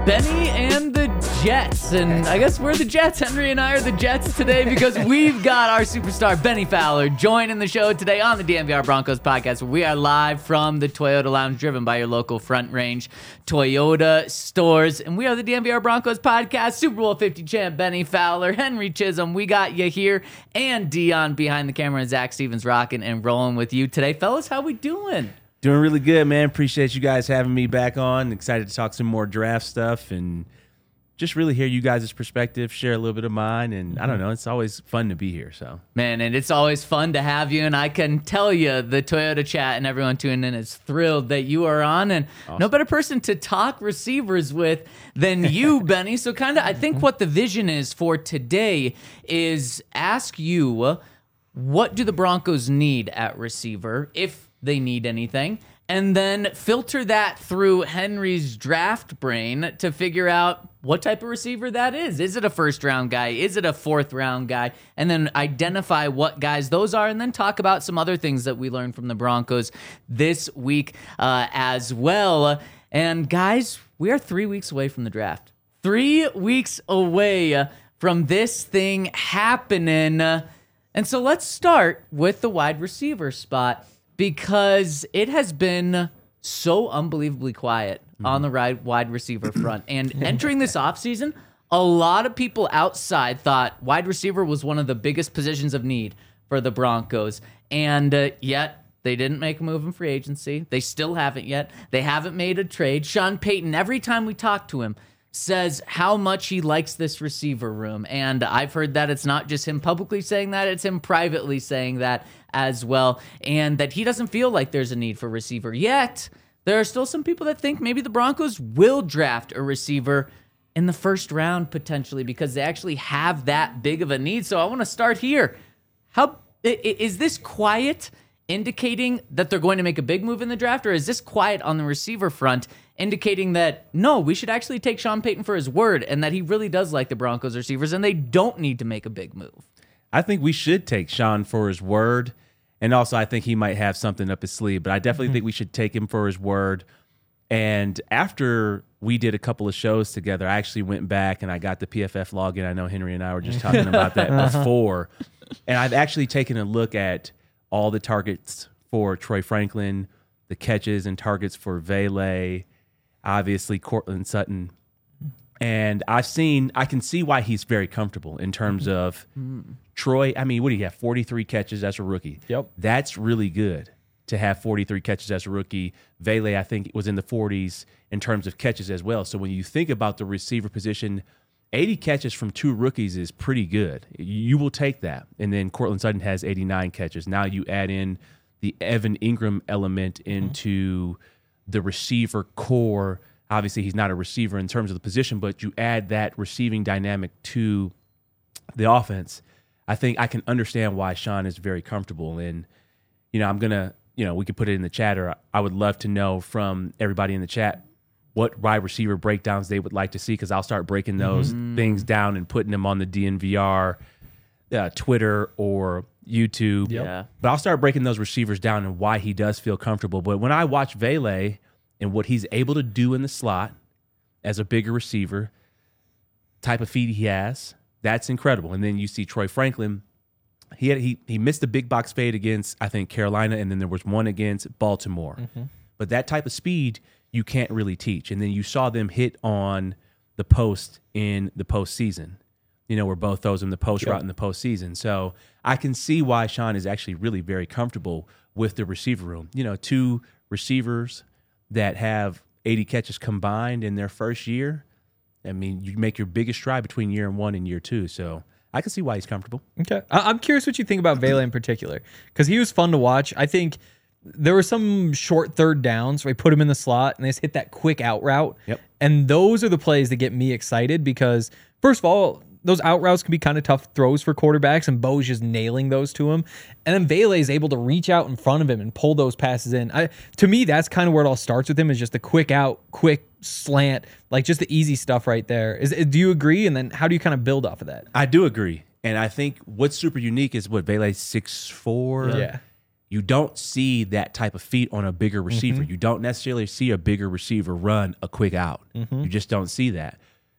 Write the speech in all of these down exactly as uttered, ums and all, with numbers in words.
Benny and the Jets. And I guess we're the Jets. Henry and I are the Jets today because we've got our superstar Benny Fowler joining the show today on the D N V R Broncos podcast. We are live from the Toyota Lounge, driven by your local Front Range Toyota stores. And we are the D N V R Broncos podcast. Super Bowl fifty champ Benny Fowler, Henry Chisholm, we got you here. And Dion behind the camera, and Zach Stevens rocking and rolling with you today. Fellas, how we doing? Doing really good, man. Appreciate you guys having me back on. Excited to talk some more draft stuff and just really hear you guys' perspective, share a little bit of mine. And I don't know, it's always fun to be here. So, man, and it's always fun to have you. And I can tell you, the Toyota chat and everyone tuning in is thrilled that you are on. And awesome. No better person to talk receivers with than you, Benny. So kind of, I think what the vision is for today is ask you, what do the Broncos need at receiver, if they need anything, and then filter that through Henry's draft brain to figure out what type of receiver that is. Is it a first round guy? Is it a fourth round guy? And then identify what guys those are, and then talk about some other things that we learned from the Broncos this week uh, as well. And guys, we are three weeks away from the draft. Three weeks away from this thing happening. And so let's start with the wide receiver spot, because it has been so unbelievably quiet mm-hmm. on the right wide receiver front. And entering this offseason, a lot of people outside thought wide receiver was one of the biggest positions of need for the Broncos. And uh, yet they didn't make a move in free agency. They still haven't yet. They haven't made a trade. Sean Payton, every time we talk to him, says how much he likes this receiver room. And I've heard that it's not just him publicly saying that, it's him privately saying that as well. And that he doesn't feel like there's a need for receiver yet. There are still some people that think maybe the Broncos will draft a receiver in the first round potentially, because they actually have that big of a need. So I want to start here. How is this quiet indicating that they're going to make a big move in the draft, or is this quiet on the receiver front indicating that, no, we should actually take Sean Payton for his word and that he really does like the Broncos receivers and they don't need to make a big move? I think we should take Sean for his word, and also I think he might have something up his sleeve, but I definitely mm-hmm. think we should take him for his word. And after we did a couple of shows together, I actually went back and I got the P F F login. I know Henry and I were just talking about that before. And I've actually taken a look at all the targets for Troy Franklin, the catches and targets for Vele, obviously Courtland Sutton. And I've seen, I can see why he's very comfortable in terms of mm. Troy. I mean, what do you have? forty-three catches as a rookie. Yep. That's really good to have forty-three catches as a rookie. Vele, I think, was in the forties in terms of catches as well. So when you think about the receiver position, eighty catches from two rookies is pretty good. You will take that. And then Courtland Sutton has eighty-nine catches. Now you add in the Evan Ingram element into mm-hmm. the receiver core. Obviously, he's not a receiver in terms of the position, but you add that receiving dynamic to the offense. I think I can understand why Sean is very comfortable. And, you know, I'm going to, you know, we could put it in the chat, or I would love to know from everybody in the chat what wide receiver breakdowns they would like to see, because I'll start breaking those mm. things down and putting them on the D N V R, uh, Twitter, or YouTube. Yep. Yeah. But I'll start breaking those receivers down and why he does feel comfortable. But when I watch Vele and what he's able to do in the slot as a bigger receiver, type of feet he has, that's incredible. And then you see Troy Franklin. He had, he he missed the big box fade against, I think, Carolina, and then there was one against Baltimore. Mm-hmm. But that type of speed you can't really teach. And then you saw them hit on the post in the postseason, you know, where both throws in the post yep. route in the postseason. So I can see why Sean is actually really very comfortable with the receiver room. You know, two receivers that have eighty catches combined in their first year. I mean, you make your biggest stride between year one and year two. So I can see why he's comfortable. Okay. I'm curious what you think about Vele in particular, because he was fun to watch. I think there were some short third downs where he put him in the slot and they just hit that quick out route. Yep. And those are the plays that get me excited because, first of all, those out routes can be kind of tough throws for quarterbacks, and Bo's just nailing those to him. And then Vele is able to reach out in front of him and pull those passes in. I, to me, that's kind of where it all starts with him, is just the quick out, quick slant, like just the easy stuff right there. Is do you agree? And then how do you kind of build off of that? I do agree. And I think what's super unique is what Vele's six foot four. Yeah. You don't see that type of feat on a bigger receiver. Mm-hmm. You don't necessarily see a bigger receiver run a quick out. Mm-hmm. You just don't see that.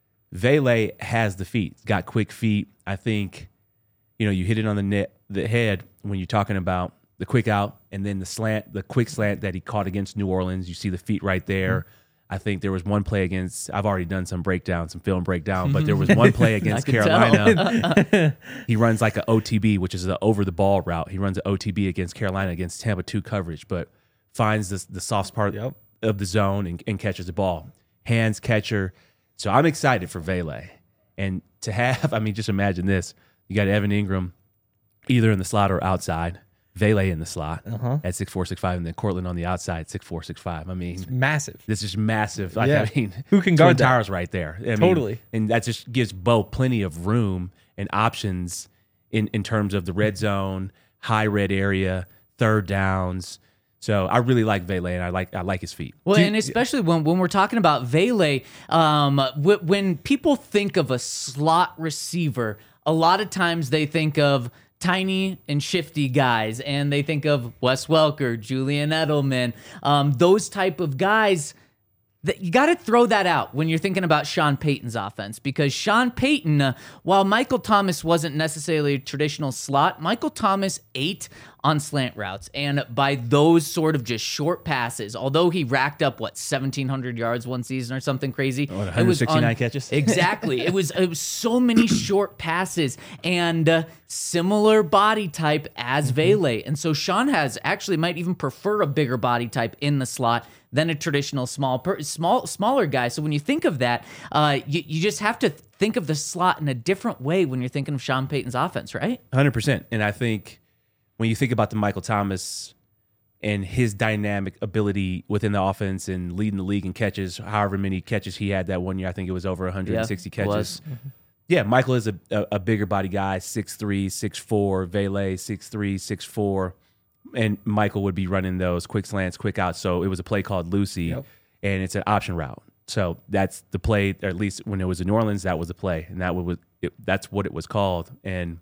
Vele has the feet, got quick feet. I think, you know, you hit it on the net, the head when you're talking about the quick out and then the slant, the quick slant that he caught against New Orleans. You see the feet right there. Mm-hmm. I think there was one play against, I've already done some breakdown, some film breakdown, but there was one play against Carolina. He runs like an O T B, which is an over the ball route. He runs an O T B against Carolina against Tampa two coverage, but finds the, the soft part Yep. of the zone and, and catches the ball. Hands catcher. So I'm excited for Vele. And to have, I mean, just imagine this. You got Evan Ingram either in the slot or outside. Vele in the slot Uh-huh. at six four, six five, and then Cortland on the outside, six four, six five. I mean, Massive. this is massive. Like, Yeah. I mean, Who can Twin guard that? Towers right there. I mean, Totally. and that just gives Bo plenty of room and options in, in terms of the red zone, high red area, third downs. So I really like Vele, and I like I like his feet. Well, and especially when, when we're talking about Vele, um, wh- when people think of a slot receiver, a lot of times they think of tiny and shifty guys, and they think of Wes Welker, Julian Edelman, um, those type of guys. That you got to throw that out when you're thinking about Sean Payton's offense, because Sean Payton, uh, while Michael Thomas wasn't necessarily a traditional slot, Michael Thomas ate on slant routes, and by those sort of just short passes, although he racked up what seventeen hundred yards one season or something crazy, What, it was one sixty-nine on- catches? Exactly, it was it was so many short passes and uh, similar body type as Vele, and so Sean has actually might even prefer a bigger body type in the slot than a traditional small, per, small, smaller guy. So when you think of that, uh, you, you just have to think of the slot in a different way when you're thinking of Sean Payton's offense, right? one hundred percent. And I think when you think about the Michael Thomas and his dynamic ability within the offense and leading the league in catches, however many catches he had that one year, I think it was over one hundred sixty Yeah, it was. catches. Yeah, Michael is a, a, a bigger body guy, six three, six four, Vele, six three, six four. And Michael would be running those quick slants, quick outs. So it was a play called Lucy, Yep. and it's an option route. So that's the play, or at least when it was in New Orleans, that was the play, and that was it, that's what it was called. And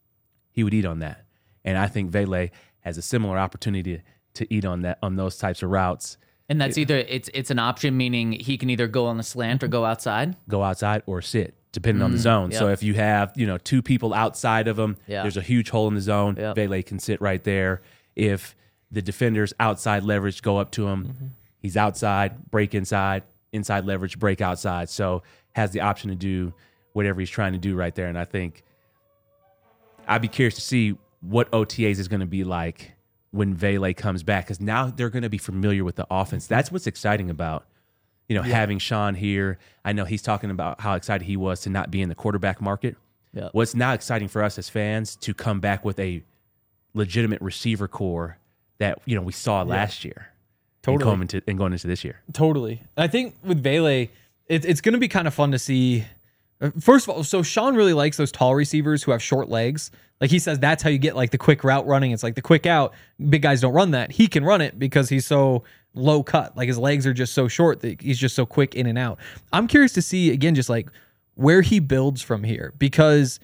he would eat on that. And I think Vele has a similar opportunity to eat on that on those types of routes. And that's either it's it's an option, meaning he can either go on the slant or go outside. Go outside or sit, depending on the zone. yeah. So if you have, you know, two people outside of him, Yeah. there's a huge hole in the zone. Yep. Vele can sit right there. If the defenders outside leverage go up to him, Mm-hmm. he's outside, break inside, inside leverage, break outside. So has the option to do whatever he's trying to do right there. And I think I'd be curious to see what O T As is going to be like when Vele comes back, because now they're going to be familiar with the offense. That's what's exciting about, you know, having Sean here. I know he's talking about how excited he was to not be in the quarterback market. Yeah. What's now exciting for us as fans to come back with a legitimate receiver core that, you know, we saw last year. Totally. And going into, and going into this year. Totally. I think with Vele, it, it's going to be kind of fun to see. uh, First of all, so Sean really likes those tall receivers who have short legs. Like he says, that's how you get like the quick route running. It's like the quick out. Big guys don't run that. He can run it because he's so low cut. Like his legs are just so short that he's just so quick in and out. I'm curious to see, again, just like where he builds from here, because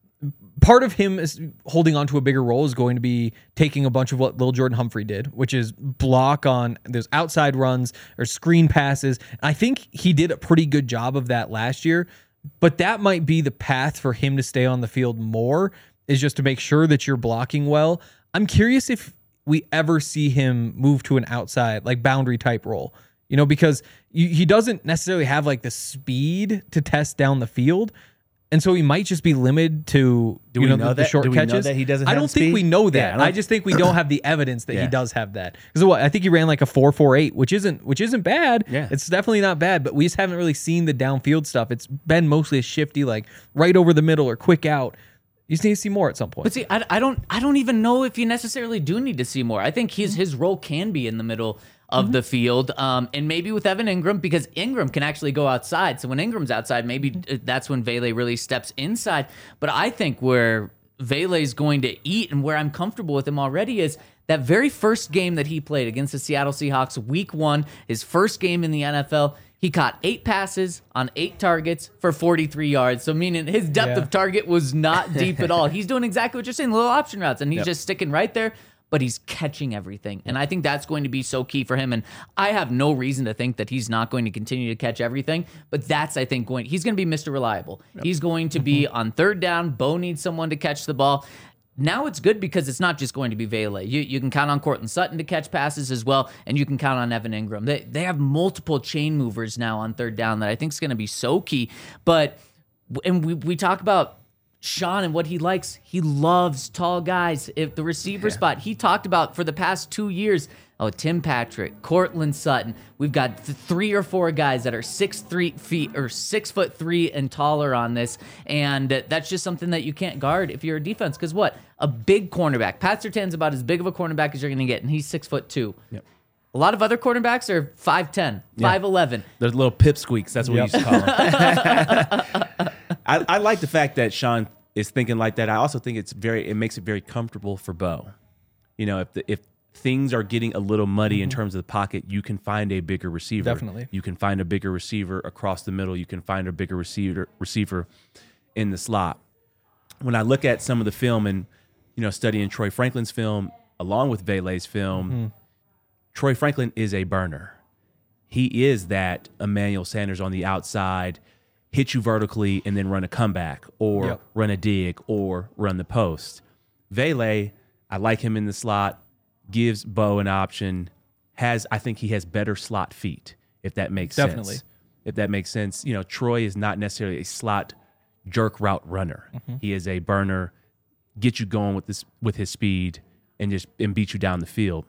part of him is holding on to a bigger role is going to be taking a bunch of what Lil Jordan Humphrey did, which is block on those outside runs or screen passes. I think he did a pretty good job of that last year, but that might be the path for him to stay on the field more, is just to make sure that you're blocking well. I'm curious if we ever see him move to an outside, like boundary type role, you know, because you, he doesn't necessarily have like the speed to test down the field. And so he might just be limited to Do you we know, know the, the that? short Do we know catches. that he doesn't I have don't the think speed? we know Yeah, that. I don't- I just think we don't have the evidence that Yeah. he does have that. Because what I think he ran like a four four eight, which isn't which isn't bad. Yeah. It's definitely not bad, but we just haven't really seen the downfield stuff. It's been mostly a shifty, like right over the middle or quick out. You just need to see more at some point. But see, I, I don't I don't even know if you necessarily do need to see more. I think his his role can be in the middle of the field, um, and maybe with Evan Ingram, because Ingram can actually go outside. So when Ingram's outside, maybe that's when Vele really steps inside. But I think where Vele is going to eat and where I'm comfortable with him already is that very first game that he played against the Seattle Seahawks, week one, his first game in the N F L. He caught eight passes on eight targets for forty-three yards. So meaning his depth Yeah. of target was not deep at all. He's doing exactly what you're saying, little option routes, and he's Yep. just sticking right there. but he's catching everything. And I think that's going to be so key for him. And I have no reason to think that he's not going to continue to catch everything, but that's, I think, going, he's going to be Mister Reliable. Yep. He's going to be on third down. Bo needs someone to catch the ball. Now it's good because it's not just going to be Vele. You you can count on Cortland Sutton to catch passes as well, and you can count on Evan Ingram. They they have multiple chain movers now on third down that I think is going to be so key. But, and we, we talk about Sean and what he likes. He loves tall guys. If the receiver yeah. spot, he talked about for the past two years, oh, Tim Patrick, Cortland Sutton. We've got th- three or four guys that are six three feet or six foot three and taller on this, and uh, that's just something that you can't guard if you're a defense. Because what a big cornerback, Pat Surtain's about as big of a cornerback as you're going to get, and he's six foot two. Yep. A lot of other cornerbacks are five ten, yeah. five eleven. They're little pipsqueaks. That's what yep. we used to call them. I, I like the fact that Sean is thinking like that. I also think it's very. It makes it very comfortable for Bo. You know, if the, if things are getting a little muddy mm-hmm. in terms of the pocket, you can find a bigger receiver. Definitely. You can find a bigger receiver across the middle. You can find a bigger receiver receiver in the slot. When I look at some of the film and, you know, studying Troy Franklin's film along with Vele's film, mm-hmm. Troy Franklin is a burner. He is that Emmanuel Sanders on the outside, hit you vertically and then run a comeback or yep. run a dig or run the post. Vele, I like him in the slot. Gives Bo an option, has I think he has better slot feet, if that makes Definitely. sense. If that makes sense. You know, Troy is not necessarily a slot jerk route runner. Mm-hmm. He is a burner, get you going with this with his speed and just and beat you down the field.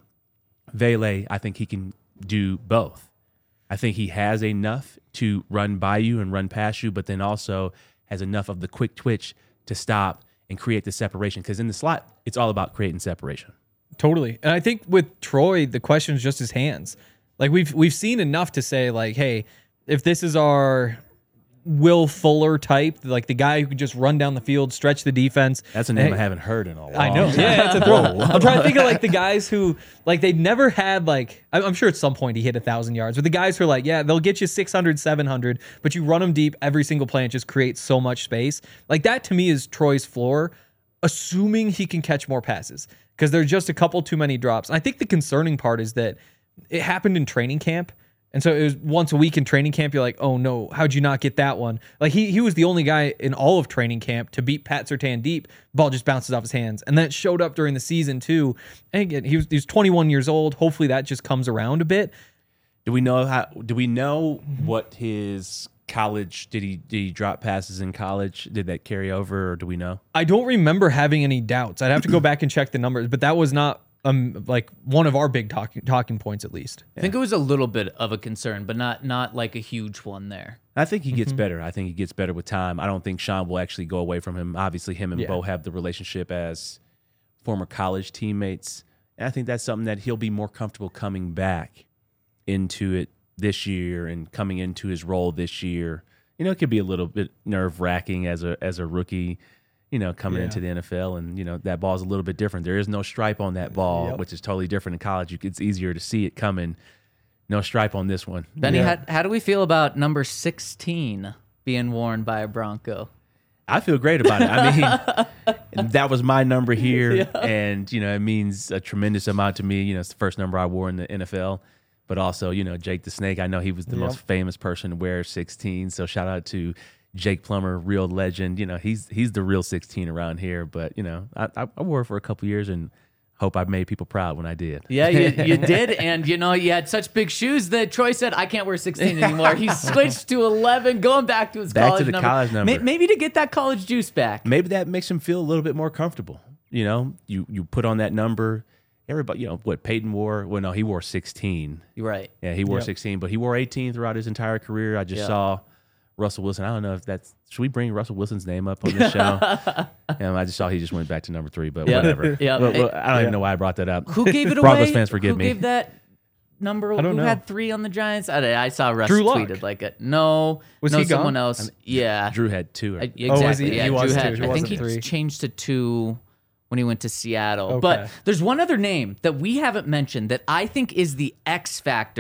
Vele, I think he can do both. I think he has enough to run by you and run past you, but then also has enough of the quick twitch to stop and create the separation. Because in the slot, it's all about creating separation. Totally. And I think with Troy, the question is just his hands. Like we've we've seen enough to say like, hey, if this is our Will Fuller type, like the guy who can just run down the field, stretch the defense. That's a name hey, I haven't heard in a while. I know. Yeah, it's a throw. I'm trying to think of like the guys who like they never had like, I'm sure at some point he hit a thousand yards, but the guys who are like, yeah, they'll get you six hundred, seven hundred, but you run them deep every single play and just create so much space. Like that to me is Troy's floor, assuming he can catch more passes. Because there's just a couple too many drops. I think the concerning part is that it happened in training camp. And so it was once a week in training camp, you're like, oh no, how'd you not get that one? Like he he was the only guy in all of training camp to beat Pat Surtain deep. Ball just bounces off his hands. And then it showed up during the season too. And again, he was, he was twenty-one years old. Hopefully that just comes around a bit. Do we know how, do we know mm-hmm. what his college, did he did he drop passes in college? Did that carry over, or do we know? I don't remember having any doubts. I'd have to go back and check the numbers, but that was not um like one of our big talking talking points at least. I think it was a little bit of a concern, but not not like a huge one there. I think he gets mm-hmm. better. I think he gets better with time. I don't think Sean will actually go away from him. Obviously, him and Yeah. Bo have the relationship as former college teammates. And I think that's something that he'll be more comfortable coming back into it this year and coming into his role this year. You know, it could be a little bit nerve-wracking as a as a rookie, you know, coming Yeah. into the N F L, and, you know, that ball's a little bit different. There is no stripe on that ball, Yep. which is totally different in college. You, it's easier to see it coming. No stripe on this one. Benny, Yeah. how, how do we feel about number sixteen being worn by a Bronco? I feel great about it. I mean, that was my number here, Yeah. and, you know, it means a tremendous amount to me. You know, it's the first number I wore in the N F L. But also, you know, Jake the Snake, I know he was the Yep. most famous person to wear sixteen. So shout out to Jake Plummer, real legend. You know, he's he's the real sixteen around here. But, you know, I, I, I wore it for a couple years and hope I made people proud when I did. Yeah, you, you did. And, you know, you had such big shoes that Troy said, I can't wear sixteen anymore. He switched to eleven, going back to his Back college to the number. college number. May- Maybe to get that college juice back. Maybe that makes him feel a little bit more comfortable. You know, you, you put on that number. Everybody, you know, what Peyton wore? Well, no, he wore sixteen. You're right. Yeah, he wore Yep. sixteen, but he wore eighteen throughout his entire career. I just Yeah. saw Russell Wilson. I don't know if that's, should we bring Russell Wilson's name up on this show? um, I just saw he just went back to number three, but Yeah. whatever. Yeah. Well, well, Hey, I don't even know why I brought that up. Who gave it away? Broncos fans, forgive Who me. gave that number? I don't Who know. had three on the Giants? I, I saw Russ Drew Lock. tweeted like it. No. Was no, he gone? someone else. yeah. Drew had two. Or, I- exactly. Oh, was he? Yeah, He was Drew two. had, He I think wasn't he three. changed to two when he went to Seattle. Okay. But there's one other name that we haven't mentioned that I think is the X factor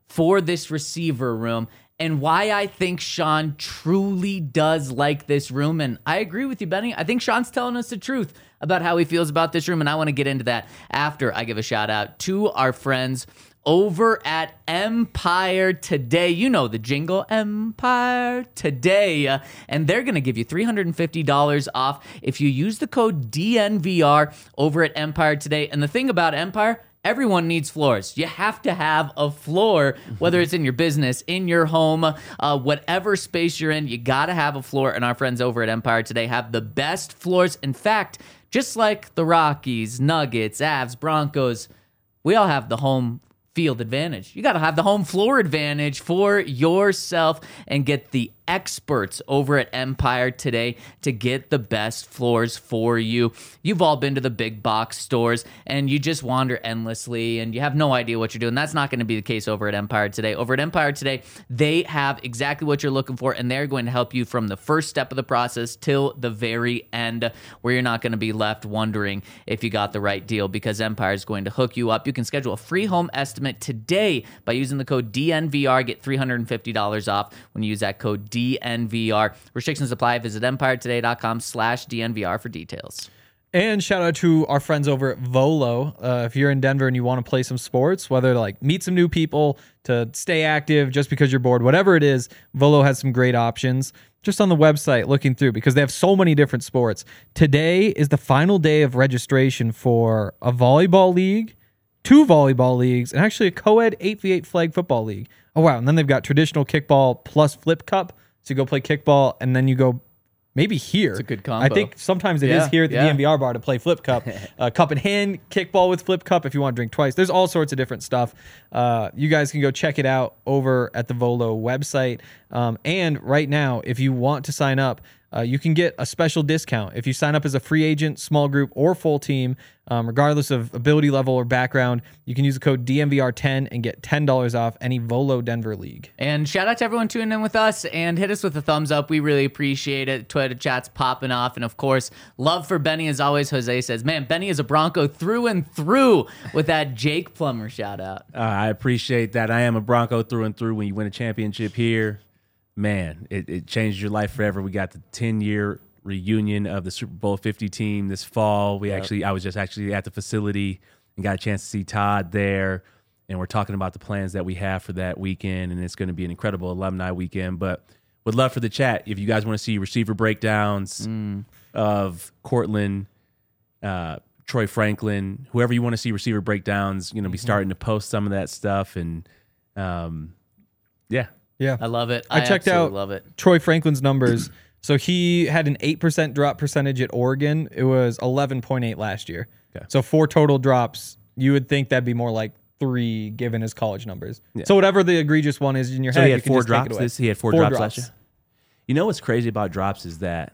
for this receiver room and why I think Sean truly does like this room. And I agree with you, Benny. I think Sean's telling us the truth about how he feels about this room, and I want to get into that after I give a shout out to our friends over at Empire Today. You know the jingle, Empire Today. Uh, and they're going to give you three hundred fifty dollars off if you use the code D N V R over at Empire Today. And the thing about Empire, everyone needs floors. You have to have a floor, whether it's in your business, in your home, uh, whatever space you're in, you got to have a floor. And our friends over at Empire Today have the best floors. In fact, just like the Rockies, Nuggets, Avs, Broncos, we all have the home field advantage. You got to have the home floor advantage for yourself and get the experts over at Empire Today to get the best floors for you. You've all been to the big box stores and you just wander endlessly and you have no idea what you're doing. That's not going to be the case over at Empire Today. Over at Empire Today, they have exactly what you're looking for, and they're going to help you from the first step of the process till the very end, where you're not going to be left wondering if you got the right deal, because Empire is going to hook you up. You can schedule a free home estimate today by using the code D N V R. Get three hundred fifty dollars off when you use that code D N V R. Restrictions apply. Visit empiretoday.com slash DNVR for details. And shout out to our friends over at Volo. Uh, if you're in Denver and you want to play some sports, whether to like meet some new people, to stay active just because you're bored, whatever it is, Volo has some great options. Just on the website looking through, because they have so many different sports. Today is the final day of registration for a volleyball league, two volleyball leagues, and actually a co-ed eight v eight flag football league. Oh, wow. And then they've got traditional kickball plus flip cup. So you go play kickball, and then you go maybe here. It's a good combo. I think sometimes it Yeah, is here at the yeah. D N V R bar to play flip cup. uh, cup in hand, kickball with flip cup if you want to drink twice. There's all sorts of different stuff. Uh, you guys can go check it out over at the Volo website. Um, and right now, if you want to sign up, uh, you can get a special discount. If you sign up as a free agent, small group, or full team, um, regardless of ability level or background, you can use the code D N V R ten and get ten dollars off any Volo Denver league. And shout out to everyone tuning in with us, and hit us with a thumbs up. We really appreciate it. Twitter chat's popping off. And of course, love for Benny as always. Jose says, man, Benny is a Bronco through and through with that Jake Plummer shout out. Uh, I appreciate that. I am a Bronco through and through. When you win a championship here, man, it, it changed your life forever. We got the ten-year reunion of the Super Bowl fifty team this fall. We Yep. actually, I was just actually at the facility and got a chance to see Todd there, and we're talking about the plans that we have for that weekend, and it's going to be an incredible alumni weekend. But would love for the chat if you guys want to see receiver breakdowns Mm. of Cortland, uh, Troy Franklin, whoever you want to see receiver breakdowns. You know, be starting to post some of that stuff, and um, yeah. Yeah. I love it. I checked absolutely out love it. Troy Franklin's numbers. So he had an eight percent drop percentage at Oregon. It was eleven point eight last year. Okay. So four total drops. You would think that'd be more like three given his college numbers. Yeah. So whatever the egregious one is in your So head, he had you can four just take it drops. away. This he had four, Four drops, drops. last year. You know what's crazy about drops is that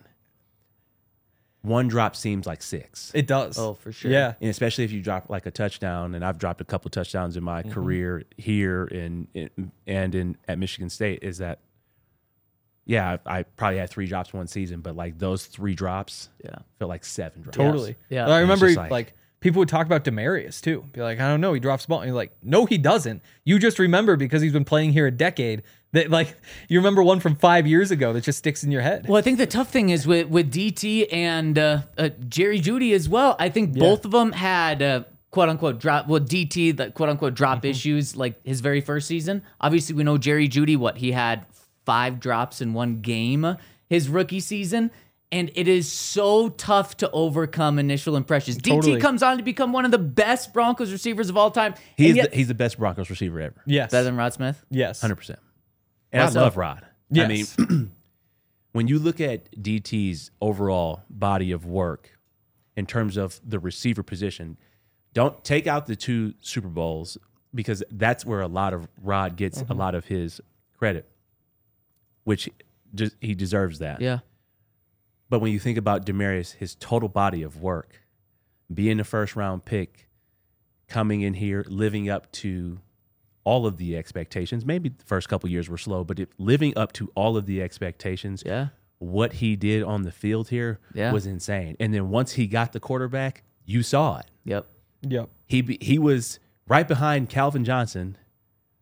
one drop seems like six, It does. Oh, for sure. Yeah. and especially if you drop like a touchdown. And I've dropped a couple touchdowns in my career here in, in and in at Michigan State. Is that yeah? I, I probably had three drops one season, but like those three drops, Yeah. felt like seven drops. Totally. Yeah. I remember just like, like- people would talk about Demarius too. Be like, I don't know, he drops the ball. And you're like, no, he doesn't. You just remember because he's been playing here a decade that like you remember one from five years ago that just sticks in your head. Well, I think the tough thing is with, with D T and uh, uh, Jerry Jeudy as well. I think both of them had uh, quote unquote drop. Well, D T, the quote unquote drop Mm-hmm. issues like his very first season. Obviously, we know Jerry Jeudy, what he had five drops in one game his rookie season. And it is so tough to overcome initial impressions. Totally. D T comes on to become one of the best Broncos receivers of all time. He's and yet, the, he's the best Broncos receiver ever. Yes. better than Rod Smith. Yes. Hundred percent. And Wow, I so- love Rod. Yes. I mean, when you look at D T's overall body of work in terms of the receiver position, don't take out the two Super Bowls because that's where a lot of Rod gets a lot of his credit, which just, he deserves that. Yeah. But when you think about Demarius, his total body of work, being the first round pick, coming in here, living up to all of the expectations. Maybe the first couple years were slow, but if living up to all of the expectations, Yeah. what he did on the field here Yeah. was insane. And then once he got the quarterback, you saw it. Yep. Yep. He be- he was right behind Calvin Johnson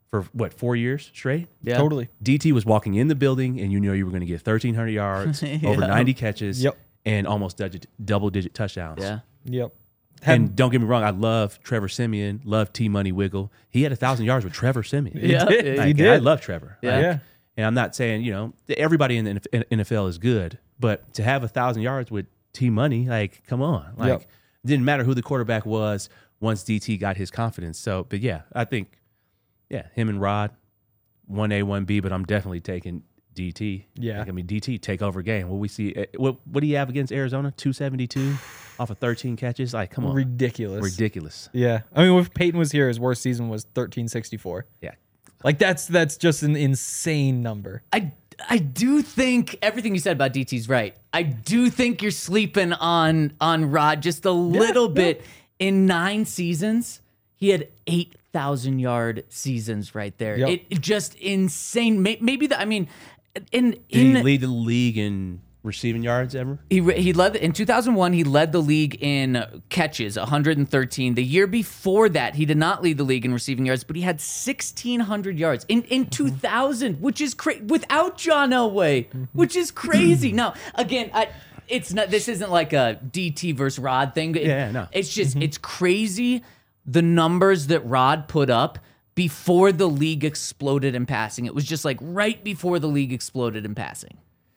for what, four years straight? Yeah. Totally. D T was walking in the building, and you know you were going to get thirteen hundred yards, Yeah. over ninety catches, Yep. and almost double digit touchdowns. Yeah. Yep. And don't get me wrong, I love Trevor Siemian, love T Money Wiggle. He had a thousand yards with Trevor Siemian. Yeah. did. yeah. He Like, did. I love Trevor. Yeah. Like, Yeah. And I'm not saying, you know, everybody in the N F L is good, but to have a thousand yards with T Money, like, come on. Like, Yep. it didn't matter who the quarterback was once D T got his confidence. So, but yeah, I think, yeah, him and Rod, one A, one B, but I'm definitely taking D T. Yeah. Like, I mean, D T take over game. What we see, eh, what what do you have against Arizona? two seventy-two off of thirteen catches? Like, come on. Ridiculous. Ridiculous. Yeah. I mean, if Peyton was here, his worst season was thirteen sixty-four. Yeah. Like that's that's just an insane number. I I do think everything you said about D T's right. I do think you're sleeping on on Rod just a little bit. In nine seasons, he had eight thousand yard seasons right there. Yep. It, it just insane. May- Maybe the I mean, in Did in he lead the league in receiving yards ever? He he led in two thousand one. He led the league in catches, one hundred thirteen. The year before that, he did not lead the league in receiving yards, but he had sixteen hundred yards in in two thousand, which is crazy without John Elway, which is crazy. Now, again, I, it's not. This isn't like a D T versus Rod thing. It- Yeah, no. It's just it's crazy the numbers that Rod put up before the league exploded in passing. It was just like right before the league exploded in passing.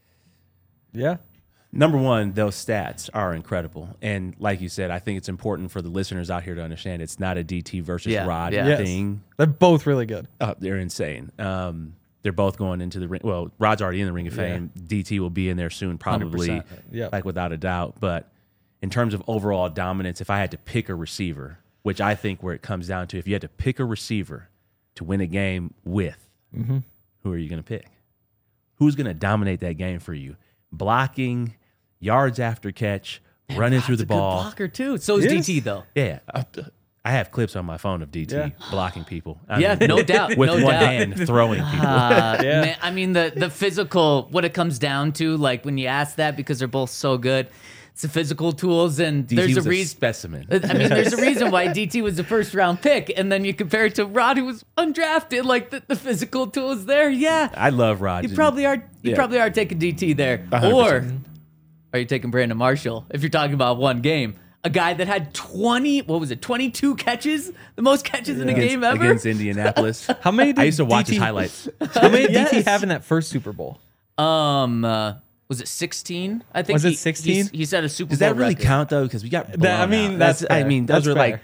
Yeah. Number one, those stats are incredible. And like you said, I think it's important for the listeners out here to understand it's not a D T versus Yeah, Rod yeah. Yes. thing. They're both really good. Oh, they're insane. Um, they're both going into the ring. Well, Rod's already in the Ring of Fame. D T will be in there soon, probably, one hundred percent. Yeah. like without a doubt. But in terms of overall dominance, if I had to pick a receiver, which I think where it comes down to, if you had to pick a receiver to win a game with, Mm-hmm. who are you going to pick? Who's going to dominate that game for you? Blocking, yards after catch, running through the Rod's a good ball. blocker too. So is He D is. T though. Yeah. I- I have clips on my phone of D T Yeah. blocking people. I Yeah, mean, no doubt, With no one doubt. hand throwing people. Uh, Yeah. man, I mean the the physical. What it comes down to, like when you ask that, because they're both so good, it's the physical tools, and D T there's was a a reason. specimen. I mean, there's a reason why D T was the first round pick, and then you compare it to Rod, who was undrafted. Like the, the physical tools there, yeah. I love Rod. You probably are. You Yeah. probably are taking D T there, one hundred or percent. are you taking Brandon Marshall? If you're talking about one game, a guy that had twenty, what was it, twenty-two catches, the most catches in a against, game ever. against Indianapolis. How many did I used to watch D T his highlights. How many did D T Yes. have in that first Super Bowl? Um, uh, was it sixteen? I think Was it he- sixteen? He, he set a Super Does Bowl that really record. count though? Because we got. That- I blown mean, out. that's I fair. mean, those That's are like. fair.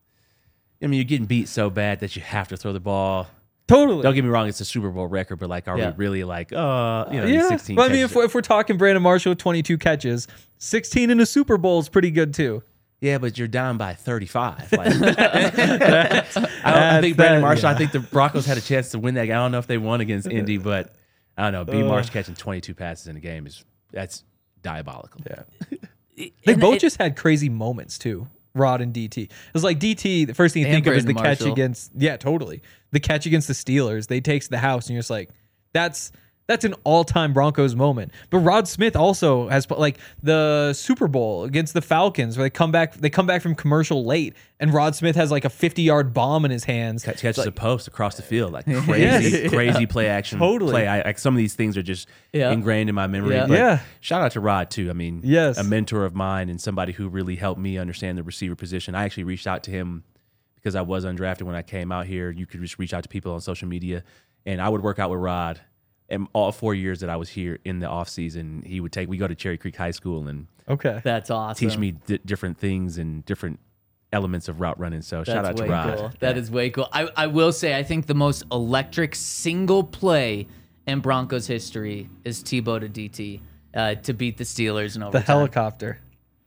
I mean, you're getting beat so bad that you have to throw the ball. Totally. Don't get me wrong; it's a Super Bowl record, but like, are Yeah. we really like, uh, you know, these Yeah. sixteen? Well, I mean, catches if we're, if we're talking Brandon Marshall with twenty-two catches, sixteen in a Super Bowl is pretty good too. Yeah, but you're down by thirty-five. Like, I, don't, I think Brandon that- Marshall. yeah. I think the Broncos had a chance to win that game. I don't know if they won against Indy, but I don't know. B. Marsh catching twenty-two passes in a game is that's diabolical. Yeah. They And both it- just had crazy moments too. Rod and D T. It was like D T. The first thing you And think of is the Brandon catch Marshall. against. Yeah, totally. The catch against the Steelers. They takes the house, and you're just like, that's that's an all-time Broncos moment. But Rod Smith also has like the Super Bowl against the Falcons, where they come back. They come back from commercial late, and Rod Smith has like a fifty-yard bomb in his hands. Catch, catches a post across the field, like crazy, Yes. crazy play action. Totally. play. I, like some of these things are just Yeah. ingrained in my memory. Yeah. But Yeah. shout out to Rod too. I mean, Yes. a mentor of mine and somebody who really helped me understand the receiver position. I actually reached out to him because I was undrafted when I came out here. You could just reach out to people on social media, and I would work out with Rod. And all four years that I was here in the off season, he would take. We go to Cherry Creek High School and Okay. That's awesome. teach me di- different things and different elements of route running. So shout That's out to way Rod. cool. That is way cool. I, I will say, I think the most electric single play in Broncos history is Tebow to D T uh, to beat the Steelers in The overtime. helicopter.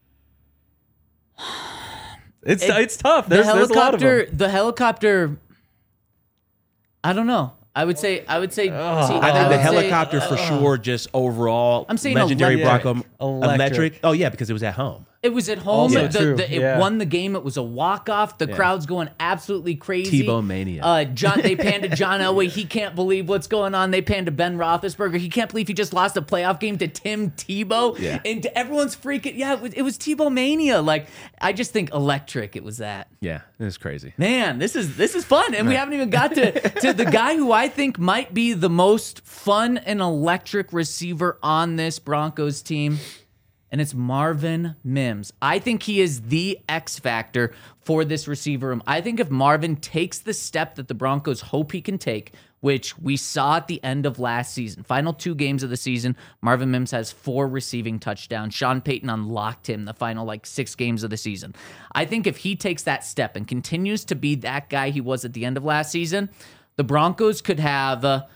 It's It- it's tough. The There's, there's a lot of helicopter. them. The helicopter. I don't know. I would say. I would say. Oh. T- I think would the say- helicopter for sure, just overall, I'm saying legendary electric. Bronco Electric. Oh yeah, because it was at home. It was at home. Also The- true, the- it yeah. won the game. It was a walk-off. The crowd's going absolutely crazy. Tebow mania. Uh, John, they panned to John Elway. He can't believe what's going on. They panned to Ben Roethlisberger. He can't believe he just lost a playoff game to Tim Tebow. Yeah. And to everyone's freaking, yeah, it was, it was Tebow mania. Like, I just think electric. It was that. Yeah, it's crazy. Man, this is this is fun, and we haven't even got to to the guy who I think might be the most fun and electric receiver on this Broncos team, and it's Marvin Mims. I think he is the X factor for this receiver room. I think if Marvin takes the step that the Broncos hope he can take, which we saw at the end of last season, final two games of the season, Marvin Mims has four receiving touchdowns. Sean Payton unlocked him the final like six games of the season. I think if he takes that step and continues to be that guy he was at the end of last season, the Broncos could have a,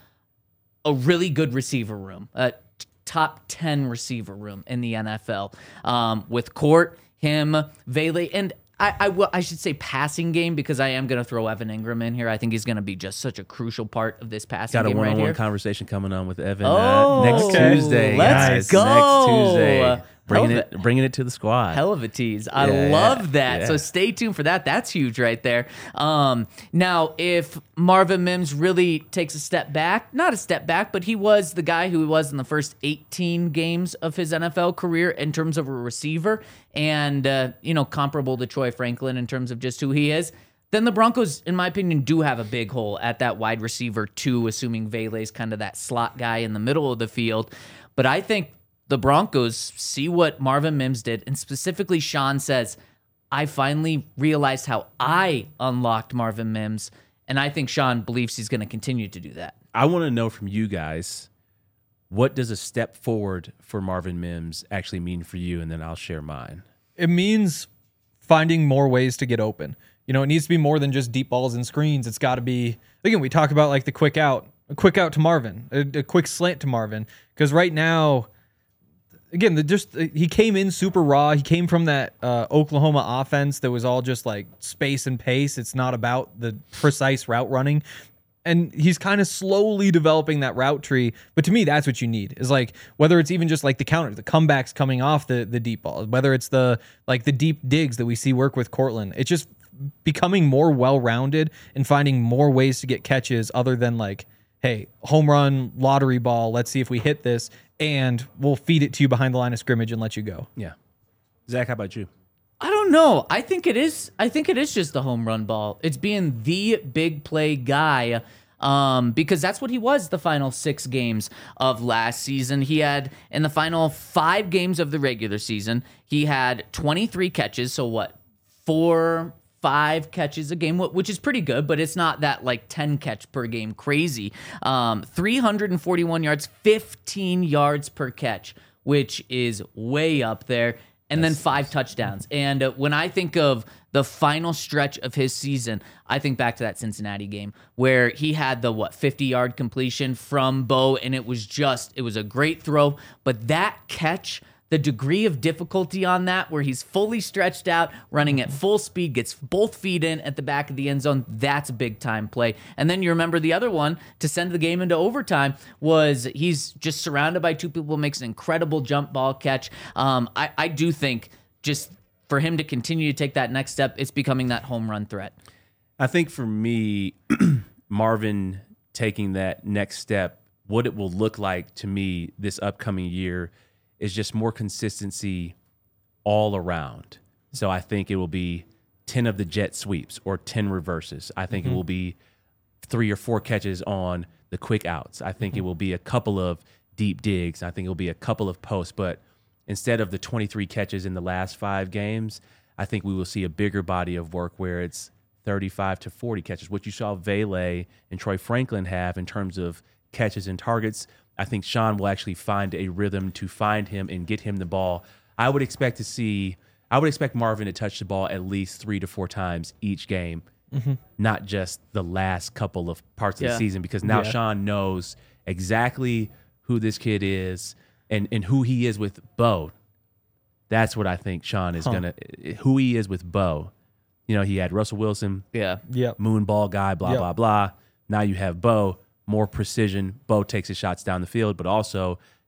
a really good receiver room, a t- top ten receiver room in the N F L um, with Court, him, Vele, and I, I, will, I should say passing game because I am going to throw Evan Ingram in here. I think he's going to be just such a crucial part of this passing Got a game right one-on-one here. conversation coming on with Evan Oh, uh, next okay. Tuesday. Let's guys. go. Next Tuesday. Hell Bringing of it, bringing it to the squad. Hell of a tease. I Yeah, love that. yeah. So stay tuned for that. That's huge right there. Um, now, if Marvin Mims really takes a step back, not a step back, but he was the guy who he was in the first eighteen games of his N F L career in terms of a receiver and, uh, you know, comparable to Troy Franklin in terms of just who he is, then the Broncos, in my opinion, do have a big hole at that wide receiver too, assuming Vele's kind of that slot guy in the middle of the field. But I think the Broncos see what Marvin Mims did, and specifically Sean says, I finally realized how I unlocked Marvin Mims, and I think Sean believes he's going to continue to do that. I want to know from you guys, what does a step forward for Marvin Mims actually mean for you? And then I'll share mine. It means finding more ways to get open. You know, it needs to be more than just deep balls and screens. It's got to be, again, we talk about like the quick out, a quick out to Marvin, a, a quick slant to Marvin. Because right now, again, the just he came in super raw. He came from that uh, Oklahoma offense that was all just like space and pace. It's not about the precise route running. And he's kind of slowly developing that route tree. But to me, that's what you need is like whether it's even just like the counter, the comebacks coming off the the deep ball, whether it's the like the deep digs that we see work with Cortland. It's just becoming more well-rounded and finding more ways to get catches other than like, hey, home run, lottery ball, let's see if we hit this, and we'll feed it to you behind the line of scrimmage and let you go. Yeah. Zach, how about you? I don't know. I think it is. I think it is just the home run ball. It's being the big play guy, um, because that's what he was the final six games of last season. He had in the final five games of the regular season, he had twenty-three catches. So what, four, five catches a game, which is pretty good, but it's not that like ten catch per game crazy. Um, three hundred forty-one yards, fifteen yards per catch, which is way up there. And then five touchdowns. And uh, when I think of the final stretch of his season, I think back to that Cincinnati game where he had the, what, fifty-yard completion from Bo, and it was just, it was a great throw. But that catch, the degree of difficulty on that where he's fully stretched out, running at full speed, gets both feet in at the back of the end zone, that's a big-time play. And then you remember the other one to send the game into overtime was he's just surrounded by two people, makes an incredible jump ball catch. Um, I, I do think just for him to continue to take that next step, it's becoming that home run threat. I think for me, Marvin taking that next step, what it will look like to me this upcoming year is just more consistency all around. So I think it will be ten of the jet sweeps or ten reverses. I think mm-hmm. it will be three or four catches on the quick outs. I think mm-hmm. it will be a couple of deep digs. I think it will be a couple of posts. But instead of the twenty-three catches in the last five games, I think we will see a bigger body of work where it's thirty-five to forty catches, what you saw Vele and Troy Franklin have in terms of catches and targets. I think Sean will actually find a rhythm to find him and get him the ball. I would expect to see, I would expect Marvin to touch the ball at least three to four times each game, mm-hmm. not just the last couple of parts of yeah. the season, because now yeah. Sean knows exactly who this kid is and, and who he is with Bo. That's what I think Sean is huh. going to, who he is with Bo. You know, he had Russell Wilson, yeah, yep. moon ball guy, blah, yep. blah, blah. Now you have Bo. More precision. Bo takes his shots down the field, but also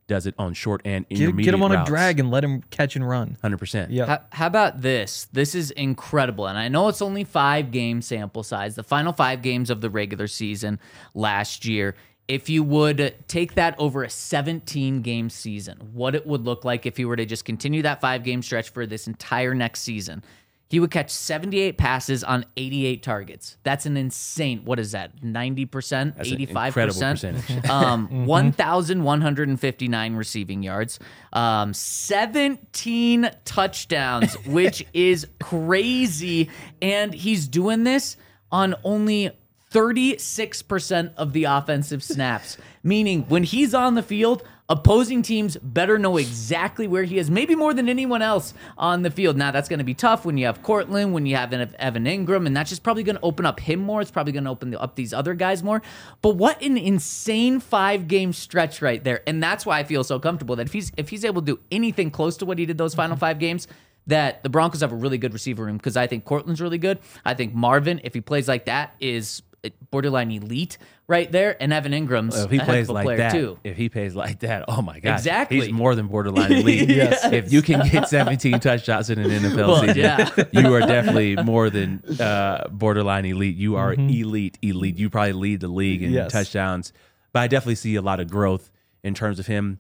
does it on short and Get, intermediate get him on routes. a drag and let him catch and run. one hundred percent. Yeah. How, how about this? This is incredible. And I know it's only five game sample size, the final five games of the regular season last year. If you would take that over a seventeen game season, what it would look like if he were to just continue that five game stretch for this entire next season. He would catch seventy-eight passes on eighty-eight targets. That's an insane, what is that, ninety percent, That's an eighty-five incredible percent? percentage. Um, one thousand one hundred fifty-nine receiving yards, um, seventeen touchdowns, which is crazy. And he's doing this on only thirty-six percent of the offensive snaps, meaning when he's on the field, opposing teams better know exactly where he is, maybe more than anyone else on the field. Now, that's going to be tough when you have Cortland, when you have Evan Ingram, and that's just probably going to open up him more. It's probably going to open up these other guys more. But what an insane five-game stretch right there. And that's why I feel so comfortable that if he's if he's able to do anything close to what he did those final five games, that the Broncos have a really good receiver room, because I think Cortland's really good. I think Marvin, if he plays like that, is borderline elite right there, and Evan Ingram's Well, if he a plays heck of a like player that, too. if he plays like that, oh my gosh, Exactly. he's more than borderline elite. Yes. If you can get seventeen touchdowns in an N F L Well, season, yeah. you are definitely more than uh, borderline elite. You are elite, elite. You probably lead the league in Yes. touchdowns. But I definitely see a lot of growth in terms of him.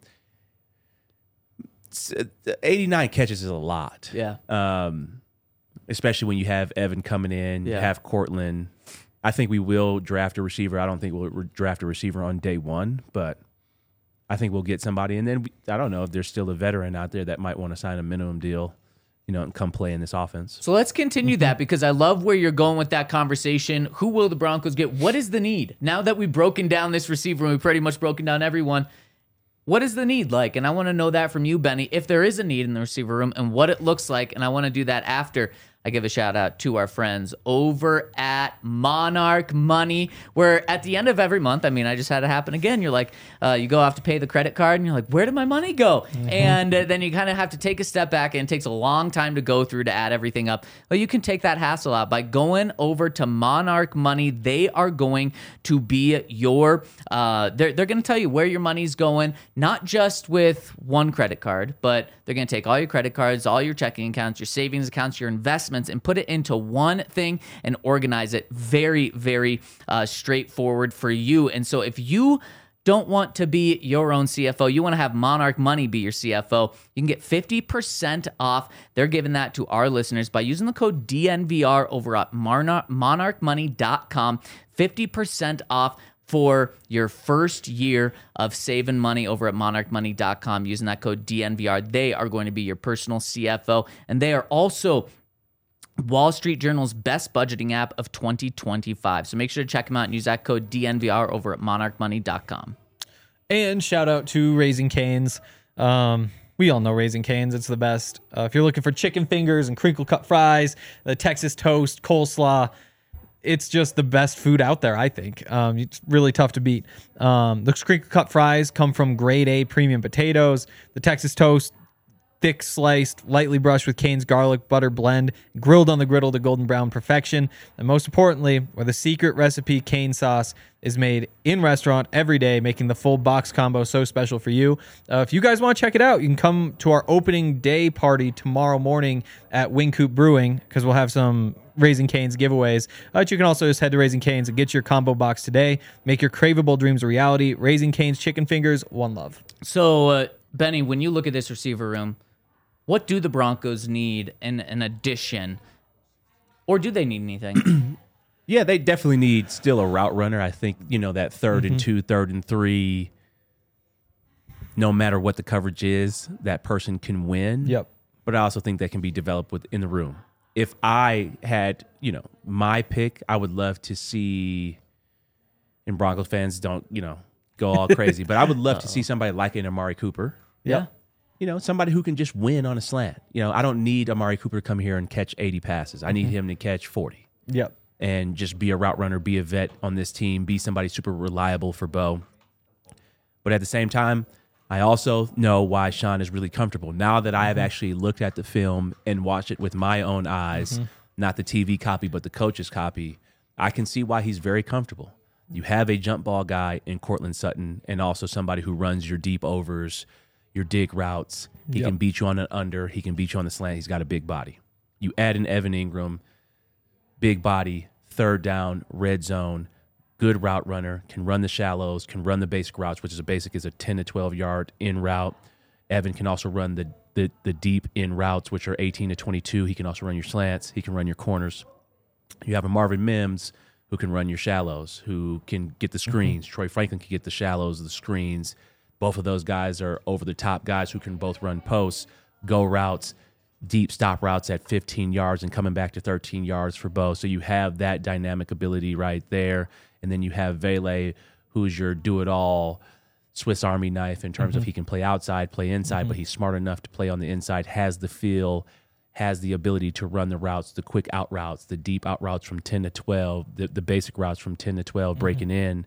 eighty-nine catches is a lot. Yeah. Um, especially when you have Evan coming in, you Yeah. have Cortland. I think we will draft a receiver. I don't think we'll re- draft a receiver on day one, but I think we'll get somebody. And then we, I don't know if there's still a veteran out there that might want to sign a minimum deal, you know, and come play in this offense. So let's continue that, because I love where you're going with that conversation. Who will the Broncos get? What is the need? Now that we've broken down this receiver, and we've pretty much broken down everyone, what is the need like? And I want to know that from you, Benny, if there is a need in the receiver room and what it looks like. And I want to do that after I give a shout out to our friends over at Monarch Money, where at the end of every month, I mean, I just had it happen again. You're like, uh, you go off to pay the credit card and you're like, where did my money go? Mm-hmm. And uh, then you kind of have to take a step back, and it takes a long time to go through to add everything up. Well, you can take that hassle out by going over to Monarch Money. They are going to be your, uh, they're, they're going to tell you where your money's going, not just with one credit card, but they're going to take all your credit cards, all your checking accounts, your savings accounts, your investments, and put it into one thing and organize it very, very uh, straightforward for you. And so if you don't want to be your own C F O, you want to have Monarch Money be your C F O, you can get fifty percent off. They're giving that to our listeners by using the code D N V R over at monarch money dot com. fifty percent off for your first year of saving money over at monarch money dot com using that code D N V R. They are going to be your personal C F O, and they are also Wall Street Journal's best budgeting app of twenty twenty-five. So make sure to check them out and use that code D N V R over at monarch money dot com. And shout out to Raising Cane's. Um, we all know Raising Cane's. It's the best. Uh, if you're looking for chicken fingers and crinkle cut fries, the Texas toast, coleslaw, it's just the best food out there, I think. Um, it's really tough to beat. Um, the crinkle cut fries come from grade A premium potatoes. The Texas toast, thick sliced, lightly brushed with Cane's garlic butter blend, grilled on the griddle to golden brown perfection. And most importantly, where the secret recipe Cane sauce is made in restaurant every day, making the full box combo so special for you. Uh, if you guys want to check it out, you can come to our opening day party tomorrow morning at Wing Coop Brewing, because we'll have some Raising Cane's giveaways. Uh, but you can also just head to Raising Cane's and get your combo box today. Make your craveable dreams a reality. Raising Cane's chicken fingers, one love. So, uh, Benny, when you look at this receiver room, what do the Broncos need in an addition, or do they need anything? Yeah, they definitely need still a route runner. I think, you know, that third and two, third and three, no matter what the coverage is, that person can win. Yep. But I also think that can be developed within the room. If I had, you know, my pick, I would love to see, and Broncos fans don't, you know, go all crazy, but I would love to see somebody like an Amari Cooper. Yeah. You know, somebody who can just win on a slant. You know, I don't need Amari Cooper to come here and catch eighty passes. I need him to catch forty. Yep. And just be a route runner, be a vet on this team, be somebody super reliable for Bo. But at the same time, I also know why Sean is really comfortable. Now that I have actually looked at the film and watched it with my own eyes, not the T V copy, but the coach's copy, I can see why he's very comfortable. You have a jump ball guy in Cortland Sutton and also somebody who runs your deep overs, your dig routes. He Yep. can beat you on an under. He can beat you on the slant. He's got a big body. You add in Evan Ingram, big body, third down, red zone, good route runner, can run the shallows, can run the basic routes, which is a basic is a ten to twelve yard in route. Evan can also run the, the, the deep in routes, which are eighteen to twenty-two. He can also run your slants. He can run your corners. You have a Marvin Mims who can run your shallows, who can get the screens. Mm-hmm. Troy Franklin can get the shallows, the screens. Both of those guys are over-the-top guys who can both run posts, go routes, deep stop routes at fifteen yards and coming back to thirteen yards for both. So you have that dynamic ability right there. And then you have Vele, who's your do-it-all Swiss Army knife in terms mm-hmm. of he can play outside, play inside, mm-hmm. but he's smart enough to play on the inside, has the feel, has the ability to run the routes, the quick out routes, the deep out routes from ten to twelve, the, the basic routes from ten to twelve, mm-hmm. breaking in.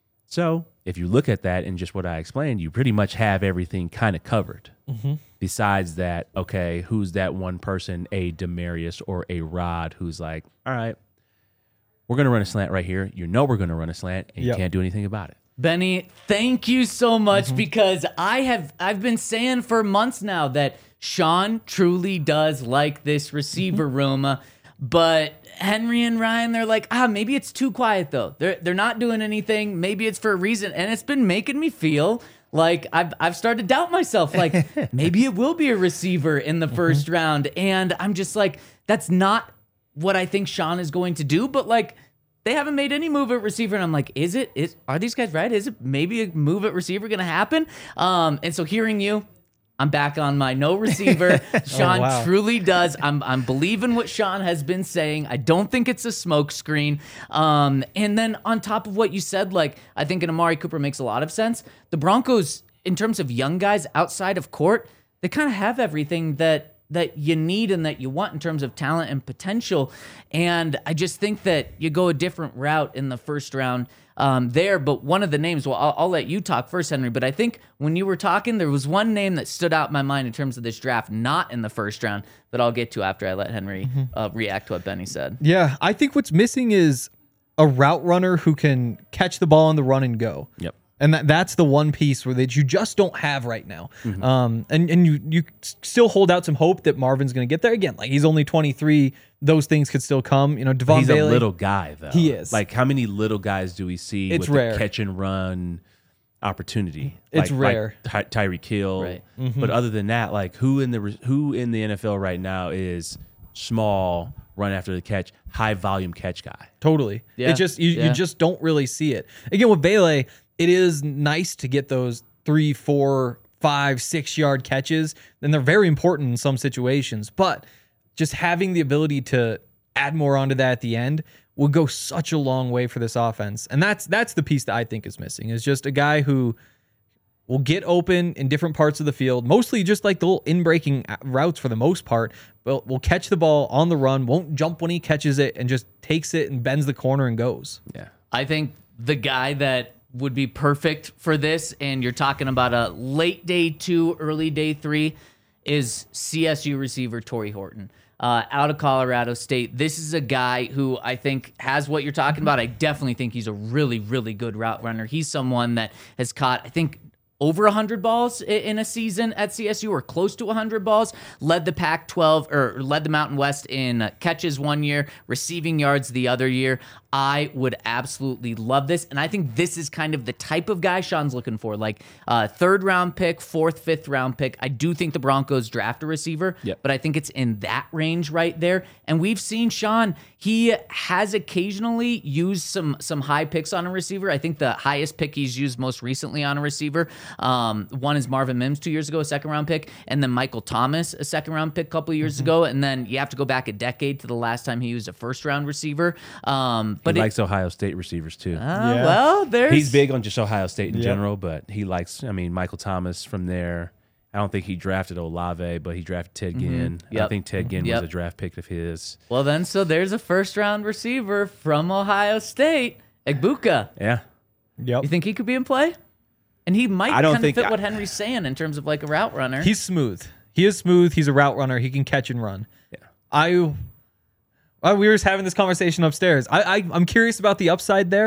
So if you look at that and just what I explained, you pretty much have everything kind of covered. Mm-hmm. Besides that, okay, who's that one person, a Demarius or a Rod, who's like, all right, we're going to run a slant right here. You know we're going to run a slant, and yep. you can't do anything about it. Benny, thank you so much mm-hmm. because I have I've been saying for months now that Sean truly does like this receiver mm-hmm. room, uh, but Henry and Ryan, they're like, ah, maybe it's too quiet though. They're they're not doing anything. Maybe it's for a reason, and it's been making me feel like I've I've started to doubt myself. Like maybe it will be a receiver in the first mm-hmm. round, and I'm just like, that's not what I think Sean is going to do. But like, they haven't made any move at receiver, and I'm like, is it? Is are these guys right? Is it maybe a move at receiver going to happen? Um, and so hearing you, I'm back on my no receiver. Sean oh, wow. truly does. I'm I'm believing what Sean has been saying. I don't think it's a smoke screen. Um, and then on top of what you said, like I think an Amari Cooper makes a lot of sense. The Broncos, in terms of young guys outside of court, they kind of have everything that that you need and that you want in terms of talent and potential. And I just think that you go a different route in the first round um, there. But one of the names, well, I'll, I'll let you talk first, Henry, but I think when you were talking, there was one name that stood out in my mind in terms of this draft, not in the first round, that I'll get to after I let Henry mm-hmm. uh, react to what Benny said. Yeah, I think what's missing is a route runner who can catch the ball on the run and go. Yep. And that, that's the one piece where that you just don't have right now. Mm-hmm. Um, and and you you still hold out some hope that Marvin's going to get there. Again, like he's only twenty-three. Those things could still come. You know, Devon He's Bailey, a little guy, though. He is. Like, how many little guys do we see it's with rare. the catch and run opportunity? It's like, rare. Like Ty- Tyreek Hill. Right. Mm-hmm. But other than that, like, who in the who in the N F L right now is small, run after the catch, high volume catch guy? Totally. Yeah. It just you, yeah. you just don't really see it. Again, with Bailey, it is nice to get those three, four, five, six yard catches, and they're very important in some situations. But just having the ability to add more onto that at the end will go such a long way for this offense. And that's that's the piece that I think is missing, is just a guy who will get open in different parts of the field, mostly just like the little in-breaking routes for the most part, but will catch the ball on the run, won't jump when he catches it, and just takes it and bends the corner and goes. Yeah. I think the guy that would be perfect for this, and you're talking about a late day two, early day three, is C S U receiver Torrey Horton. Uh, out of Colorado State. This is a guy who I think has what you're talking about. I definitely think he's a really, really good route runner. He's someone that has caught, I think, over one hundred balls in a season at C S U, or close to one hundred balls, led the Pac twelve, or led the Mountain West in catches one year, receiving yards the other year. I would absolutely love this, and I think this is kind of the type of guy Sean's looking for, like uh, third round pick, fourth, fifth round pick. I do think the Broncos draft a receiver, yep. but I think it's in that range right there. And we've seen Sean, he has occasionally used some some high picks on a receiver. I think the highest pick he's used most recently on a receiver, um, one is Marvin Mims two years ago, a second round pick, and then Michael Thomas, a second round pick a couple years mm-hmm. ago, and then you have to go back a decade to the last time he used a first round receiver. Um, But he it, likes Ohio State receivers too. Uh, yeah. Well, there's he's big on just Ohio State in yep. general, but he likes. I mean, Michael Thomas from there. I don't think he drafted Olave, but he drafted Ted Ginn. Mm-hmm. Yep. I think Ted Ginn yep. was a draft pick of his. Well, then, so there's a first round receiver from Ohio State, Egbuka. Yeah. Yep. You think he could be in play? And he might I don't kind of think fit I, what Henry's saying in terms of like a route runner. He's smooth. He is smooth. He's a route runner. He can catch and run. Yeah. I. Uh, we were just having this conversation upstairs. I, I I'm curious about the upside there.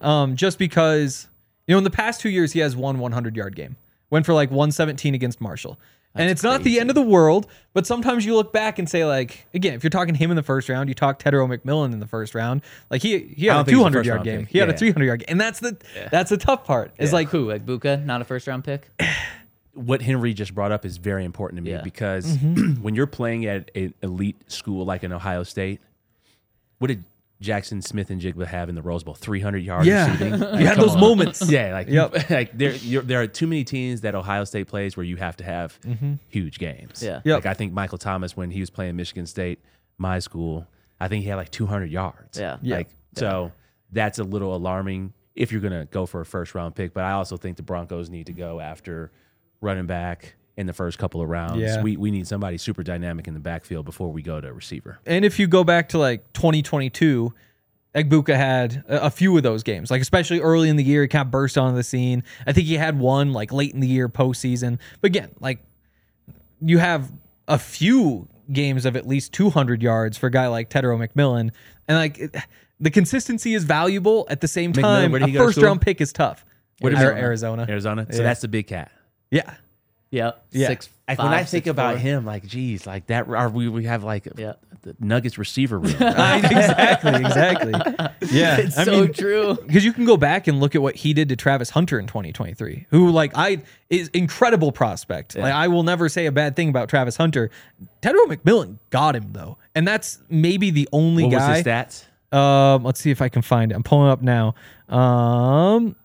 Um, just because, you know, in the past two years, he has one hundred-yard game. Went for like one seventeen against Marshall. And That's it's not crazy. the end of the world, but sometimes you look back and say, like, again, if you're talking him in the first round, you talk Tedero McMillan in the first round, like he he I had don't a think he's a two hundred-yard first-round game. pick. He had a Yeah. three hundred-yard game. And that's the that's the tough part. Is like, Who? Like Buka, not a first round pick? What Henry just brought up is very important to me Yeah. because Mm-hmm. when you're playing at an elite school like an Ohio State, what did Jackson Smith and Jigba have in the Rose Bowl? three hundred yards yeah, receiving? you Like, had come those on. moments. Yeah, like Yep. like there you're, there are too many teams that Ohio State plays where you have to have huge games. Yeah. Yep. Like I think Michael Thomas when he was playing Michigan State, my school, I think he had like two hundred yards. Yeah. Yeah. Like so that's a little alarming if you're going to go for a first round pick, but I also think the Broncos need to go after running back in the first couple of rounds. Yeah. We we need somebody super dynamic in the backfield before we go to receiver. And if you go back to like twenty twenty-two, Egbuka had a a few of those games, like especially early in the year, he kind of burst onto the scene. I think he had one like late in the year postseason. But again, like you have a few games of at least two hundred yards for a guy like Tedero McMillan. And like it, the consistency is valuable. At the same McMillan, time, where did a he go to first school? round pick is tough. What is Arizona. it? Arizona. Arizona. So Yeah. that's the big cat. Yeah. Yep. Yeah. Six. Like five, when I six, think about four. him, like, geez, like that, are we we have like Yeah. the Nuggets receiver room. exactly. Exactly. Yeah. It's I so mean, true. because you can go back and look at what he did to Travis Hunter in twenty twenty-three, who like I is incredible prospect. Like I will never say a bad thing about Travis Hunter. Tedero McMillan got him though, and that's maybe the only What was guy. his stats? Um, let's see if I can find it. I'm pulling it up now. Um,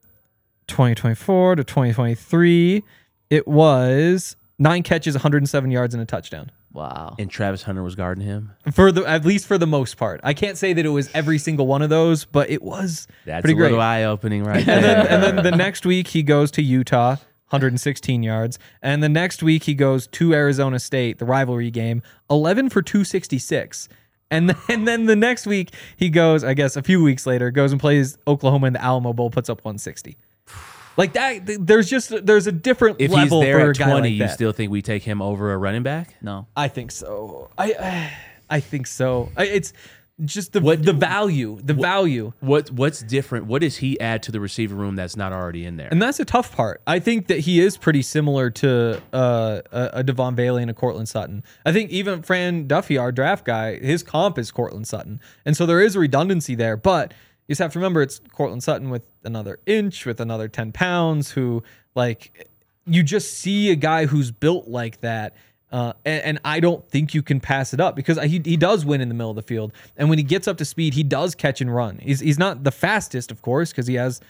twenty twenty-four to twenty twenty-three, it was nine catches, one hundred seven yards, and a touchdown. Wow. And Travis Hunter was guarding him. For the at least for the most part, I can't say that it was every single one of those, but it was That's pretty a great. little eye opening right And there. then, and then the next week he goes to Utah, one hundred sixteen yards. And the next week he goes to Arizona State, the rivalry game, eleven for two sixty-six. And then, and then the next week he goes, I guess a few weeks later, goes and plays Oklahoma in the Alamo Bowl, puts up one sixty. Like that, th- there's just there's a different if he's level there for a at guy twenty, like you that. still think we take him over a running back? No. I think so. I I think so. I- It's just the What- the value, the value. What What's different? What does he add to the receiver room that's not already in there? And that's a tough part. I think that he is pretty similar to uh, a, a Devon Bailey and a Cortland Sutton. I think even Fran Duffy, our draft guy, his comp is Cortland Sutton. And so there is a redundancy there. But you just have to remember it's Cortland Sutton with another inch, with another ten pounds, who, like, you just see a guy who's built like that. Uh, and, and I don't think you can pass it up because he, he does win in the middle of the field. And when he gets up to speed, he does catch and run. He's, he's not the fastest, of course, because he has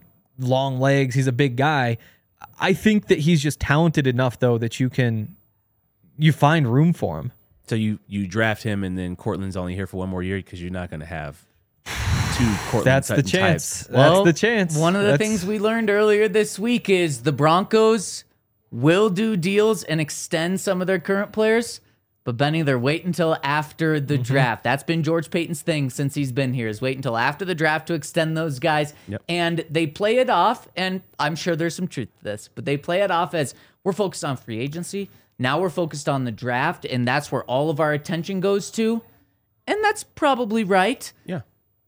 long legs. He's a big guy. I think that he's just talented enough, though, that you can you find room for him. So you you draft him, and then Cortland's only here for one more year because you're not going to have two Cortland That's the Sutton chance. types. That's the chance. One of the That's- things we learned earlier this week is the Broncos will do deals and extend some of their current players, but Benny, they're waiting until after the Mm-hmm. draft. That's been George Payton's thing since he's been here, is wait until after the draft to extend those guys. Yep. And they play it off, and I'm sure there's some truth to this, but they play it off as we're focused on free agency. Now we're focused on the draft, and that's where all of our attention goes to. And that's probably right. Yeah.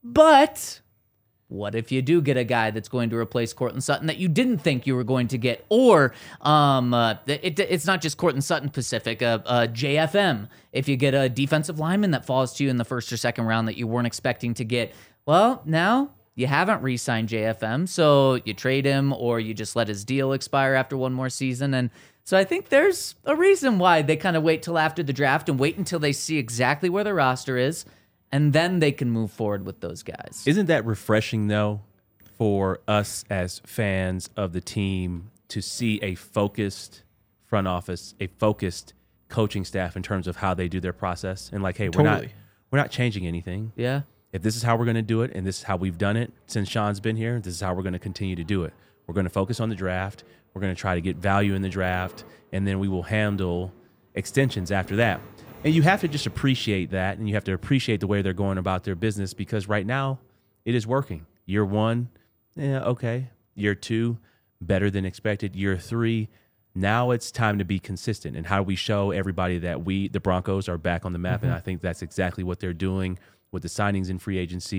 But what if you do get a guy that's going to replace Cortland Sutton that you didn't think you were going to get? Or um, uh, it, it's not just Cortland Sutton specific, uh, uh, J F M. If you get a defensive lineman that falls to you in the first or second round that you weren't expecting to get, well, now you haven't re-signed J F M, so you trade him or you just let his deal expire after one more season. And so I think there's a reason why they kind of wait till after the draft and wait until they see exactly where their roster is, and then they can move forward with those guys. Isn't that refreshing, though, for us as fans of the team to see a focused front office, a focused coaching staff in terms of how they do their process? And like, hey, we're not Totally. we're not changing anything. Yeah. If this is how we're going to do it, and this is how we've done it since Sean's been here, this is how we're going to continue to do it. We're going to focus on the draft. We're going to try to get value in the draft, and then we will handle extensions after that. And you have to just appreciate that, and you have to appreciate the way they're going about their business, because right now it is working. Year one, yeah, okay. Year two, better than expected. Year three, now it's time to be consistent. And how do we show everybody that we, the Broncos, are back on the map? Mm-hmm. And I think that's exactly what they're doing with the signings in free agency,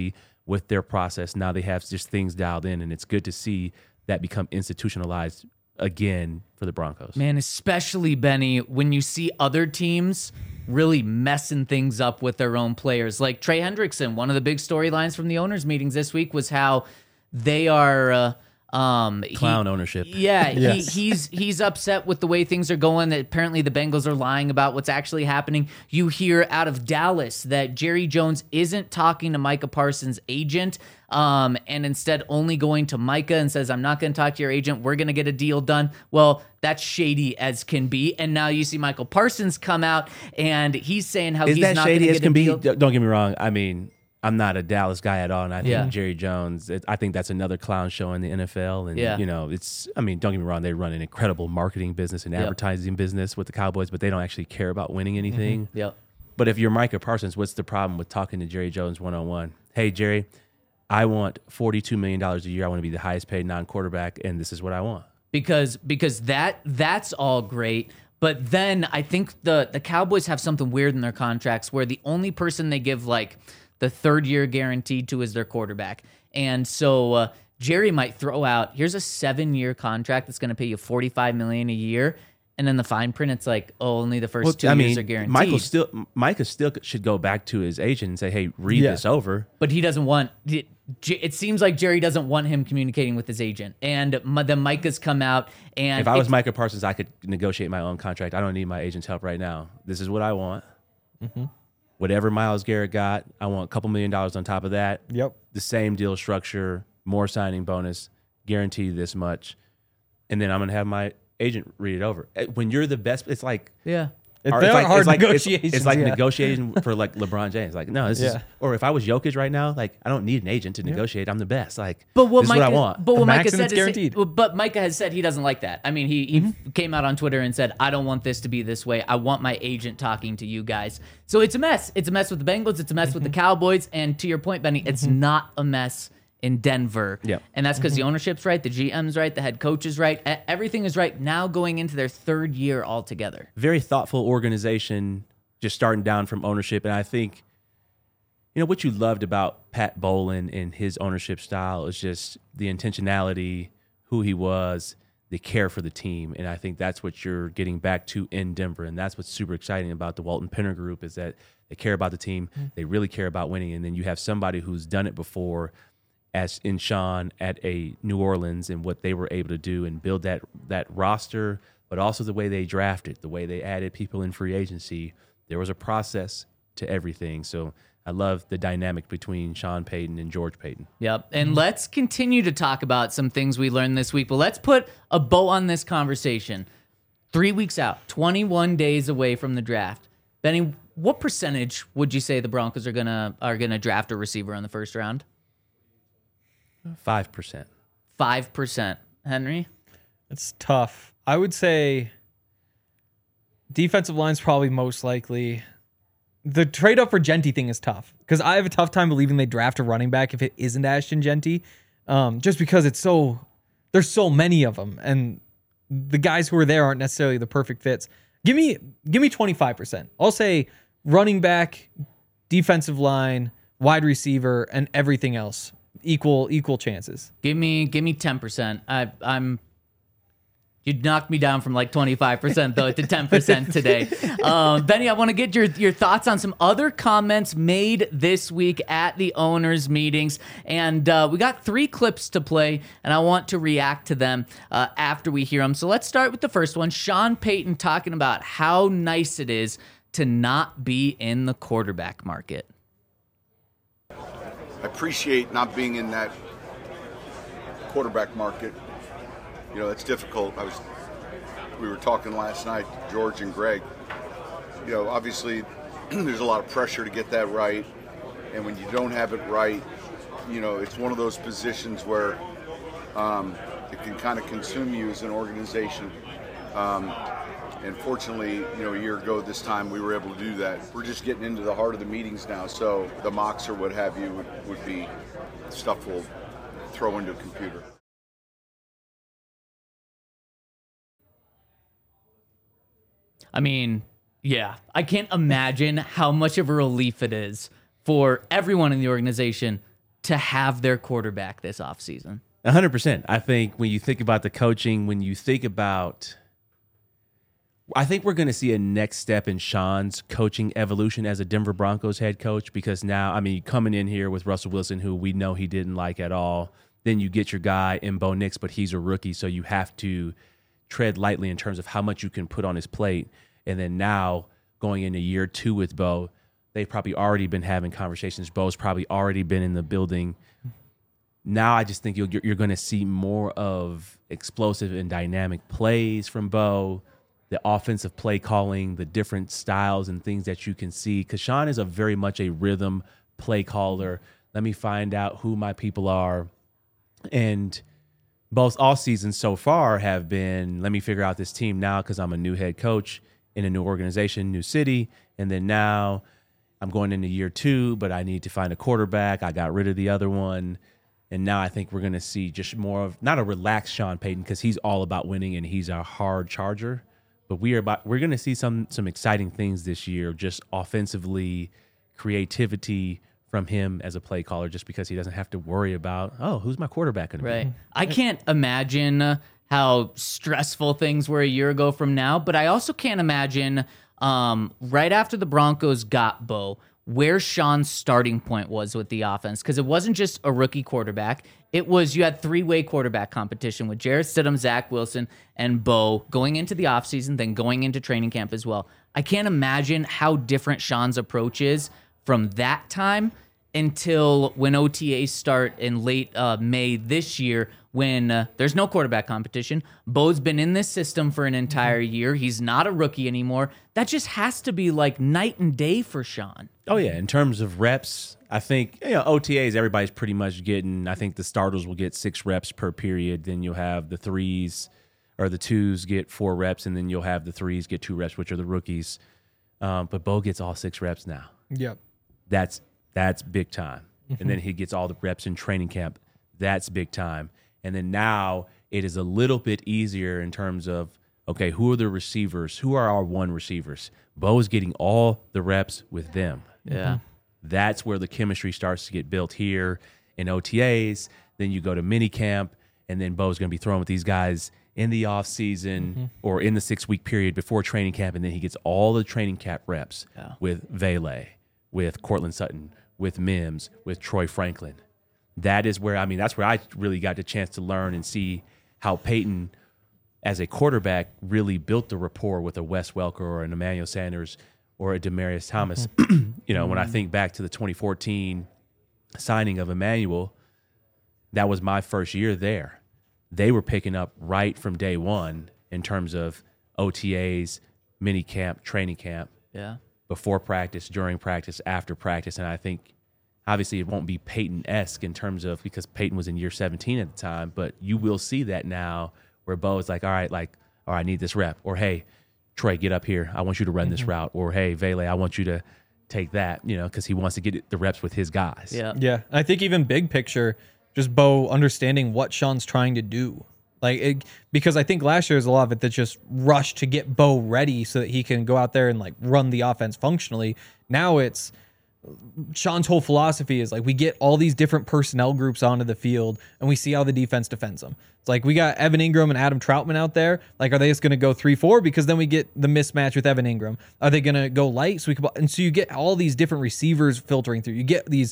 with their process. Now they have just things dialed in, and it's good to see that become institutionalized again for the Broncos. Man, especially, Benny, when you see other teams really messing things up with their own players. Like Trey Hendrickson, one of the big storylines from the owners' meetings this week was how they are... Uh, Um, Clown he, ownership. Yeah, Yes. he, he's he's upset with the way things are going. That apparently the Bengals are lying about what's actually happening. You hear out of Dallas that Jerry Jones isn't talking to Micah Parsons' agent, um, and instead only going to Micah and says, "I'm not going to talk to your agent. We're going to get a deal done." Well, that's shady as can be. And now you see Michael Parsons come out and he's saying how Is he's that not shady going as to can get a be? deal. Don't get me wrong. I mean, I'm not a Dallas guy at all, and I think Yeah. Jerry Jones, it, I think that's another clown show in the N F L. And, Yeah. you know, it's, I mean, don't get me wrong, they run an incredible marketing business and Yep. advertising business with the Cowboys, but they don't actually care about winning anything. Yep. But if you're Micah Parsons, what's the problem with talking to Jerry Jones one-on-one? Hey, Jerry, I want forty-two million dollars a year. I want to be the highest paid non-quarterback, and this is what I want. because because that that's all great. But then I think the the Cowboys have something weird in their contracts where the only person they give like the third year guaranteed to is their quarterback. And so uh, Jerry might throw out, here's a seven year contract that's going to pay you forty-five million dollars a year. And then the fine print, it's like, oh, only the first two I years mean, are guaranteed. Michael still, Micah still should go back to his agent and say, hey, read Yeah. this over. But he doesn't want it. It seems like Jerry doesn't want him communicating with his agent. And my, the Micah's come out. And If I was it's- Micah Parsons, I could negotiate my own contract. I don't need my agent's help right now. This is what I want. Mm-hmm. Whatever Myles Garrett got, I want a couple million dollars on top of that. Yep. The same deal structure, more signing bonus, guaranteed this much. And then I'm going to have my agent read it over. When you're the best, it's like... yeah. It, or they it's are like, hard it's like, it's- negotiations. It's, like yeah. negotiating for like LeBron James. Like, no, this is... Yeah. Or if I was Jokic right now, like, I don't need an agent to negotiate. I'm the best. Like, But what this Micah, is what I want. But what Max Micah and said it's is, guaranteed. well, but Micah has said he doesn't like that. I mean, he, he Mm-hmm. came out on Twitter and said, "I don't want this to be this way. I want my agent talking to you guys." So it's a mess. It's a mess with the Bengals. It's a mess with the Cowboys. And to your point, Benny, it's Mm-hmm. not a mess in Denver. Yep. And that's because Mm-hmm. the ownership's right, the G M's right, the head coach is right, e- everything is right. Now going into their third year altogether. Very thoughtful organization, just starting down from ownership. And I think, you know, what you loved about Pat Bowlen and his ownership style is just the intentionality, who he was, the care for the team. And I think that's what you're getting back to in Denver. And that's what's super exciting about the Walton Penner Group is that they care about the team. They really care about winning. And then you have somebody who's done it before as in Sean at a New Orleans and what they were able to do and build that that roster, but also the way they drafted, the way they added people in free agency. There was a process to everything. So I love the dynamic between Sean Payton and George Payton. Yep. And let's continue to talk about some things we learned this week, but let's put a bow on this conversation. Three weeks out, twenty-one days away from the draft. Benny, what percentage would you say the Broncos are gonna are gonna draft a receiver in the first round? Five percent. Five percent. Henry? It's tough. I would say defensive line's probably most likely. The trade up for Genty thing is tough because I have a tough time believing they draft a running back if it isn't Ashton Genty, um, just because it's so there's so many of them and the guys who are there aren't necessarily the perfect fits. Give me give me twenty-five percent. I'll say running back, defensive line, wide receiver, and everything else. Equal equal chances. Give me give me ten percent. I I'm you'd knock me down from like twenty-five percent though to ten percent today. Um, Benny, I want to get your, your thoughts on some other comments made this week at the owners' meetings. And uh, we got three clips to play, and I want to react to them uh, after we hear them. So let's start with the first one. Sean Payton talking about how nice it is to not be in the quarterback market. I appreciate not being in that quarterback market. You know, it's difficult. I was, we were talking last night, George and Greg. You know, obviously, there's a lot of pressure to get that right, and when you don't have it right, you know, it's one of those positions where um, it can kind of consume you as an organization. Um, and fortunately, you know, a year ago this time we were able to do that. We're just getting into the heart of the meetings now, so the mocks or what have you would, would be stuff we'll throw into a computer. I mean, yeah, I can't imagine how much of a relief it is for everyone in the organization to have their quarterback this offseason? one hundred percent. I think when you think about the coaching, when you think about, I think we're going to see a next step in Sean's coaching evolution as a Denver Broncos head coach, because now, I mean, coming in here with Russell Wilson, who we know he didn't like at all, then you get your guy in Bo Nix, but he's a rookie, so you have to tread lightly in terms of how much you can put on his plate. And then now going into year two with Bo, they've probably already been having conversations. Bo's probably already been in the building. Now I just think you're, you're going to see more of explosive and dynamic plays from Bo, the offensive play calling, the different styles and things that you can see. Because Sean is a very much a rhythm play caller. Let me find out who my people are. And both all seasons so far have been, let me figure out this team now because I'm a new head coach in a new organization, new city. And then now I'm going into year two, but I need to find a quarterback. I got rid of the other one. And now I think we're going to see just more of, not a relaxed Sean Payton, because he's all about winning and he's a hard charger. But we are about, we're going to see some some exciting things this year, just offensively, creativity from him as a play caller, just because he doesn't have to worry about, oh, who's my quarterback going to Right. be? I can't imagine how stressful things were a year ago from now, but I also can't imagine um, right after the Broncos got Bo, where Sean's starting point was with the offense, because it wasn't just a rookie quarterback. It was, you had three-way quarterback competition with Jarrett Stidham, Zach Wilson, and Bo going into the offseason, then going into training camp as well. I can't imagine how different Sean's approach is from that time until when O T As start in late uh, May this year, when uh, there's no quarterback competition. Bo's been in this system for an entire year. He's not a rookie anymore. That just has to be like night and day for Sean. Oh, yeah. In terms of reps, I think, you know, O T As, everybody's pretty much getting, I think the starters will get six reps per period. Then you'll have the threes or the twos get four reps, and then you'll have the threes get two reps, which are the rookies. Um, but Bo gets all six reps now. Yep. That's that's big time. And then he gets all the reps in training camp. That's big time. And then now it is a little bit easier in terms of, okay, who are the receivers? Who are our one receivers? Bo is getting all the reps with them. Yeah. That's where the chemistry starts to get built here in O T As. Then you go to mini camp, and then Bo's going to be throwing with these guys in the off season mm-hmm. or in the six-week period before training camp, and then he gets all the training camp reps yeah. with Vele, with Cortland Sutton, with Mims, with Troy Franklin. That is where, I mean, that's where I really got the chance to learn and see how Peyton, as a quarterback, really built the rapport with a Wes Welker or an Emmanuel Sanders or a Demaryius Thomas. Mm-hmm. you know, mm-hmm. when I think back to the twenty fourteen signing of Emmanuel, that was my first year there. They were picking up right from day one in terms of O T As, mini camp, training camp. Yeah. Before practice, during practice, after practice. And I think obviously it won't be Peyton-esque in terms of, because Peyton was in year seventeen at the time, but you will see that now where Bo is like, all right, like, all right, I need this rep. Or, hey, Troy, get up here. I want you to run mm-hmm. this route. Or, hey, Vele, I want you to take that, you know, because he wants to get the reps with his guys. Yeah. Yeah. I think even big picture, just Bo understanding what Sean's trying to do. Like, it, because I think last year was a lot of it that just rushed to get Bo ready so that he can go out there and like run the offense functionally. Now it's Sean's whole philosophy is like we get all these different personnel groups onto the field and we see how the defense defends them. It's like we got Evan Ingram and Adam Troutman out there. Like, are they just going to go three four because then we get the mismatch with Evan Ingram? Are they going to go light so we can? And so you get all these different receivers filtering through. You get these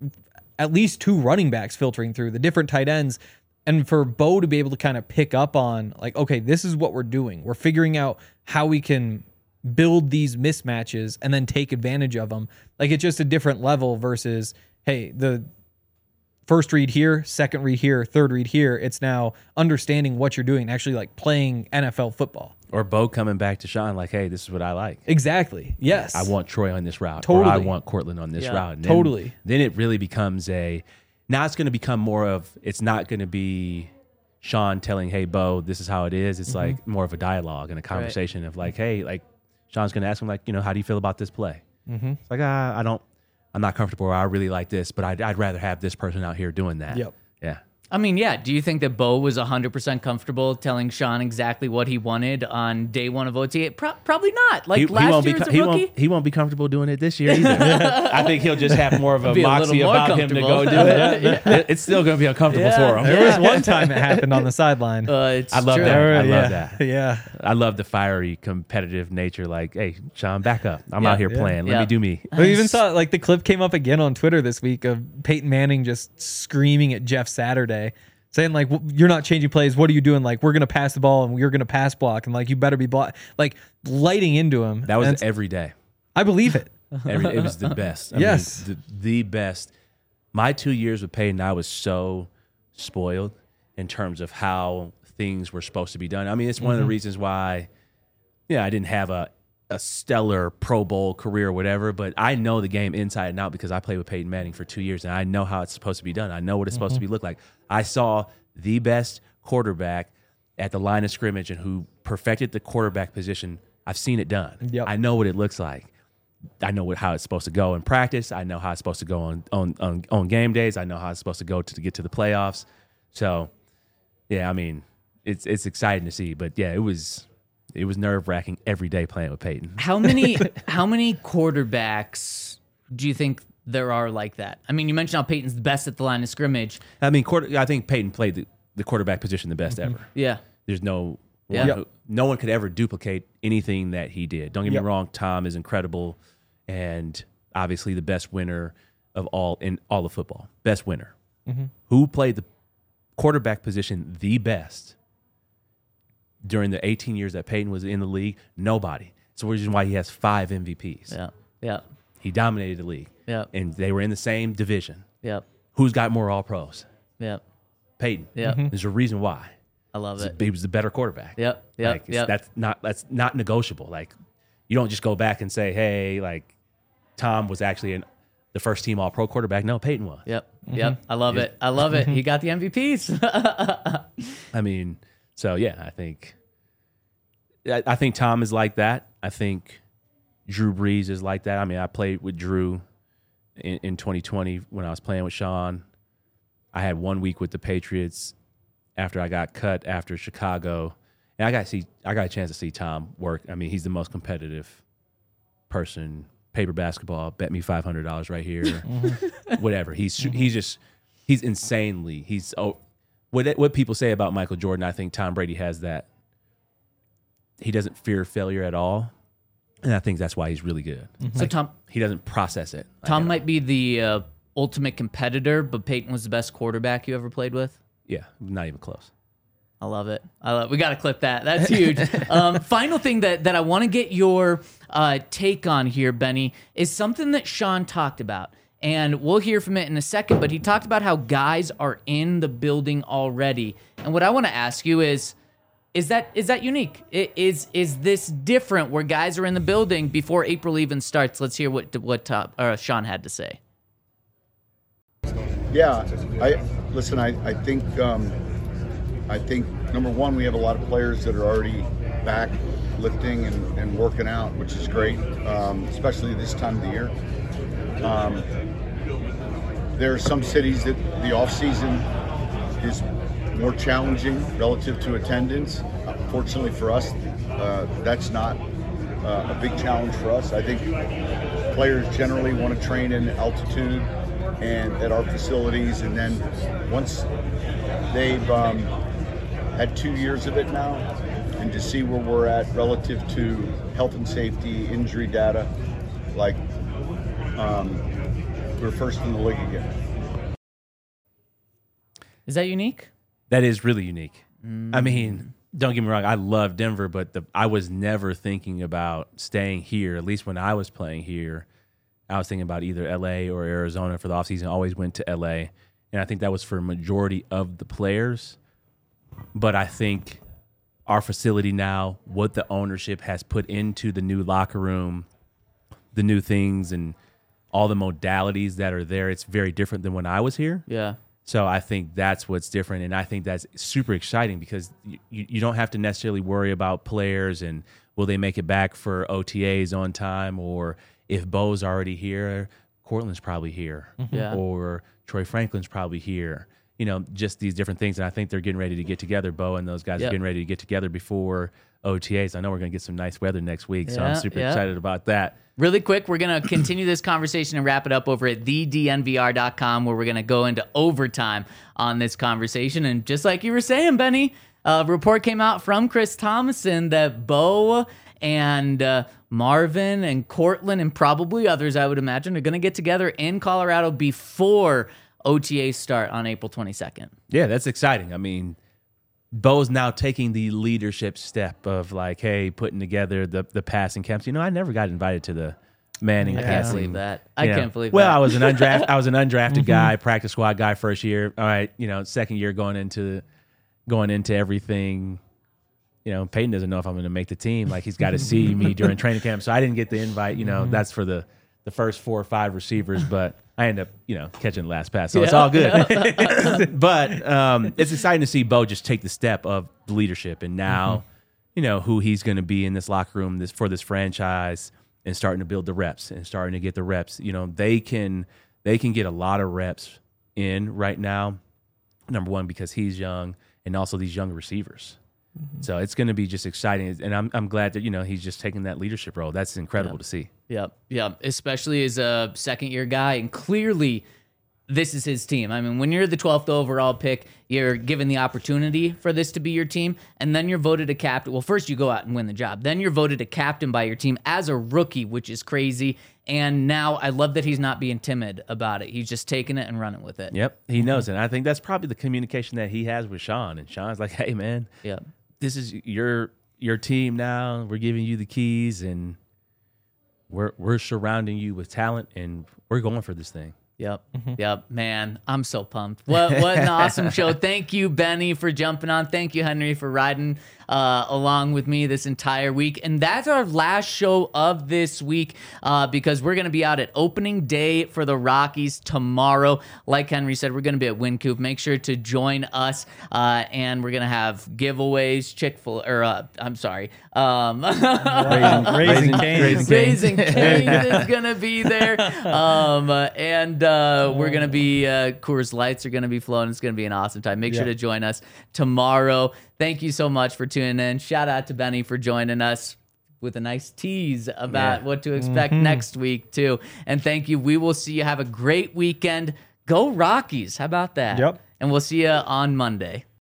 at least two running backs filtering through the different tight ends. And for Bo to be able to kind of pick up on, like, okay, this is what we're doing. We're figuring out how we can build these mismatches and then take advantage of them. Like, it's just a different level versus, hey, the first read here, second read here, third read here. It's now understanding what you're doing and actually, like, playing N F L football. Or Bo coming back to Sean like, hey, this is what I like. Exactly. Yes. I want Troy on this route. Totally. Or I want Cortland on this yeah, route. And then, totally. Then it really becomes a... Now it's going to become more of, it's not going to be Sean telling, hey, Bo, this is how it is. It's mm-hmm. like more of a dialogue and a conversation right. of like, hey, like Sean's going to ask him like, you know, how do you feel about this play? Mm-hmm. It's like, ah, I don't, I'm not comfortable or I really like this, but I'd, I'd rather have this person out here doing that. Yep. Yeah. I mean, yeah. Do you think that Bo was one hundred percent comfortable telling Sean exactly what he wanted on day one of O T A? Pro- probably not. Like He, last he won't year be as a he rookie? won't he won't be comfortable doing it this year either. I think he'll just have more of a Be a little moxie more about him to go do comfortable. it. It- It's still going to be uncomfortable Yeah. for him. There was one time it happened on the sideline. Uh, it's I love true. that. I yeah. love that. Yeah. I love the fiery, competitive nature. Like, hey, Sean, back up. I'm Yeah. out here Yeah. playing. Let Yeah. me do me. We even saw like the clip came up again on Twitter this week of Peyton Manning just screaming at Jeff Saturday, saying like, "W- "You're not changing plays. What are you doing? Like, we're gonna pass the ball and we're gonna pass block, and like you better be block." Like lighting into him. That was And it's- every day. I believe it. Every, it was the best. I Yes. mean, the, the best. My two years with Peyton, I was so spoiled in terms of how things were supposed to be done. I mean, it's one of the reasons why, yeah, I didn't have a, a stellar Pro Bowl career or whatever, but I know the game inside and out because I played with Peyton Manning for two years and I know how it's supposed to be done. I know what it's supposed to be look like. I saw the best quarterback at the line of scrimmage and who perfected the quarterback position. I've seen it done. Yep. I know what it looks like. I know what, how it's supposed to go in practice. I know how it's supposed to go on, on, on, on game days. I know how it's supposed to go to, to get to the playoffs. So, yeah, I mean, it's it's exciting to see. But, yeah, it was it was nerve-wracking every day playing with Peyton. How many how many quarterbacks do you think there are like that? I mean, you mentioned how Peyton's the best at the line of scrimmage. I mean, quarter, I think Peyton played the, the quarterback position the best ever. Yeah. There's no Yeah. one Yep. who- no one could ever duplicate anything that he did. Don't get Yep. me wrong, Tom is incredible and obviously the best winner of all in all of football. Best winner. Who played the quarterback position the best during the eighteen years that Peyton was in the league? Nobody. It's the reason why he has five M V Ps. Yeah. Yeah. He dominated the league. Yeah. And they were in the same division. Yeah. Who's got more all pros? Yeah. Peyton. Yeah. Mhm. There's a reason why. I love it. He was the better quarterback. Yep. Yep. Like, it's- Yep. That's not that's not negotiable. Like you don't just go back and say, hey, like Tom was actually an, the first team all pro quarterback. No, Peyton was. Yep. Yep. I love it. I love it. He got the M V Ps. I mean, so yeah, I think I, I think Tom is like that. I think Drew Brees is like that. I mean, I played with Drew in, in twenty twenty when I was playing with Sean. I had one week with the Patriots after I got cut after Chicago, and I got to see I got a chance to see Tom work. I mean, he's the most competitive person. Paper basketball, bet me five hundred dollars right here. Whatever. He's he's just he's insanely he's oh what what people say about Michael Jordan. I think Tom Brady has that. He doesn't fear failure at all, and I think that's why he's really good. So Tom He doesn't process it. like Tom at all. might be the uh, ultimate competitor, but Peyton was the best quarterback you ever played with. Yeah, not even close. I love it. I love. We got to clip that. That's huge. um, final thing that that I want to get your uh, take on here, Benny, is something that Sean talked about, and we'll hear from it in a second. But he talked about how guys are in the building already, and what I want to ask you is, is that is that unique? I- Is is this different where guys are in the building before April even starts? Let's hear what what top, uh, Sean had to say. Yeah, I listen. I I think um, I think number one, we have a lot of players that are already back lifting and, and working out, which is great, um, especially this time of the year. Um, there are some cities that the off season is more challenging relative to attendance. Uh, fortunately for us, uh, that's not uh, a big challenge for us. I think players generally want to train in altitude and at our facilities, and then once they've um, had two years of it now, and to see where we're at relative to health and safety, injury data, like um, we're first in the league again. Is that unique? That is really unique. I mean, don't get me wrong. I love Denver, but the, I was never thinking about staying here. At least when I was playing here, I was thinking about either L A or Arizona for the offseason. I always went to L A, and I think that was for a majority of the players. But I think our facility now, what the ownership has put into the new locker room, the new things, and all the modalities that are there, it's very different than when I was here. Yeah. So I think that's what's different, and I think that's super exciting because you, you don't have to necessarily worry about players and will they make it back for O T As on time, or if Bo's already here, Cortland's probably here, Yeah. or Troy Franklin's probably here. you know, just these different things. And I think they're getting ready to get together. Bo and those guys Yep. are getting ready to get together before O T As. I know we're going to get some nice weather next week, so Yeah, I'm super yeah. excited about that. Really quick, we're going to continue this conversation and wrap it up over at the d n v r dot com, where we're going to go into overtime on this conversation. And just like you were saying, Benny, a report came out from Chris Thomason that Bo and uh, Marvin and Cortland and probably others, I would imagine, are going to get together in Colorado before O T As start on April twenty-second. Yeah, that's exciting. I mean, Bo's now taking the leadership step of like, hey, putting together the the passing camps. You know, I never got invited to the Manning I passing. can't believe that. I You know, can't believe well, that. I was an undrafted I was an undrafted guy, practice squad guy first year. All right, you know, second year going into going into everything. You know, Peyton doesn't know if I'm going to make the team. Like he's got to see me during training camp, so I didn't get the invite. You know, that's for the the first four or five receivers, but I end up, you know, catching the last pass, so it's Yeah. all good. But um, it's exciting to see Bo just take the step of the leadership, and now, you know, who he's going to be in this locker room this for this franchise, and starting to build the reps and starting to get the reps. You know, they can they can get a lot of reps in right now. Number one, because he's young, and also these young receivers. So it's going to be just exciting, and I'm I'm glad that, you know, he's just taking that leadership role. That's incredible to see. Yep, yep. Especially as a second year guy, and clearly this is his team. I mean, when you're the twelfth overall pick, you're given the opportunity for this to be your team, and then you're voted a captain. Well, first you go out and win the job. Then you're voted a captain by your team as a rookie, which is crazy. And now I love that he's not being timid about it. He's just taking it and running with it. Yep, he knows it. And I think that's probably the communication that he has with Sean. And Sean's like, hey, man, Yep. this is your your team now. We're giving you the keys, and we're we're surrounding you with talent, and we're going for this thing. Yep. Yep. Man, I'm so pumped. What what an awesome show. Thank you, Benny, for jumping on. Thank you, Henry, for riding uh, along with me this entire week. And that's our last show of this week uh, because we're going to be out at opening day for the Rockies tomorrow. Like Henry said, we're going to be at Wynkoop. Make sure to join us. Uh, and we're going to have giveaways, Chick-fil-A, or uh, I'm sorry. Um, Raising, raising Cane's. Raising Cane's is going to be there. Um, uh, and uh, we're going to be, uh, Coors Lights are going to be flowing. It's going to be an awesome time. Make sure Yeah. to join us tomorrow. Thank you so much for tuning in. Shout out to Benny for joining us with a nice tease about Yeah. what to expect next week, too. And thank you. We will see you. Have a great weekend. Go Rockies. How about that? Yep. And we'll see you on Monday.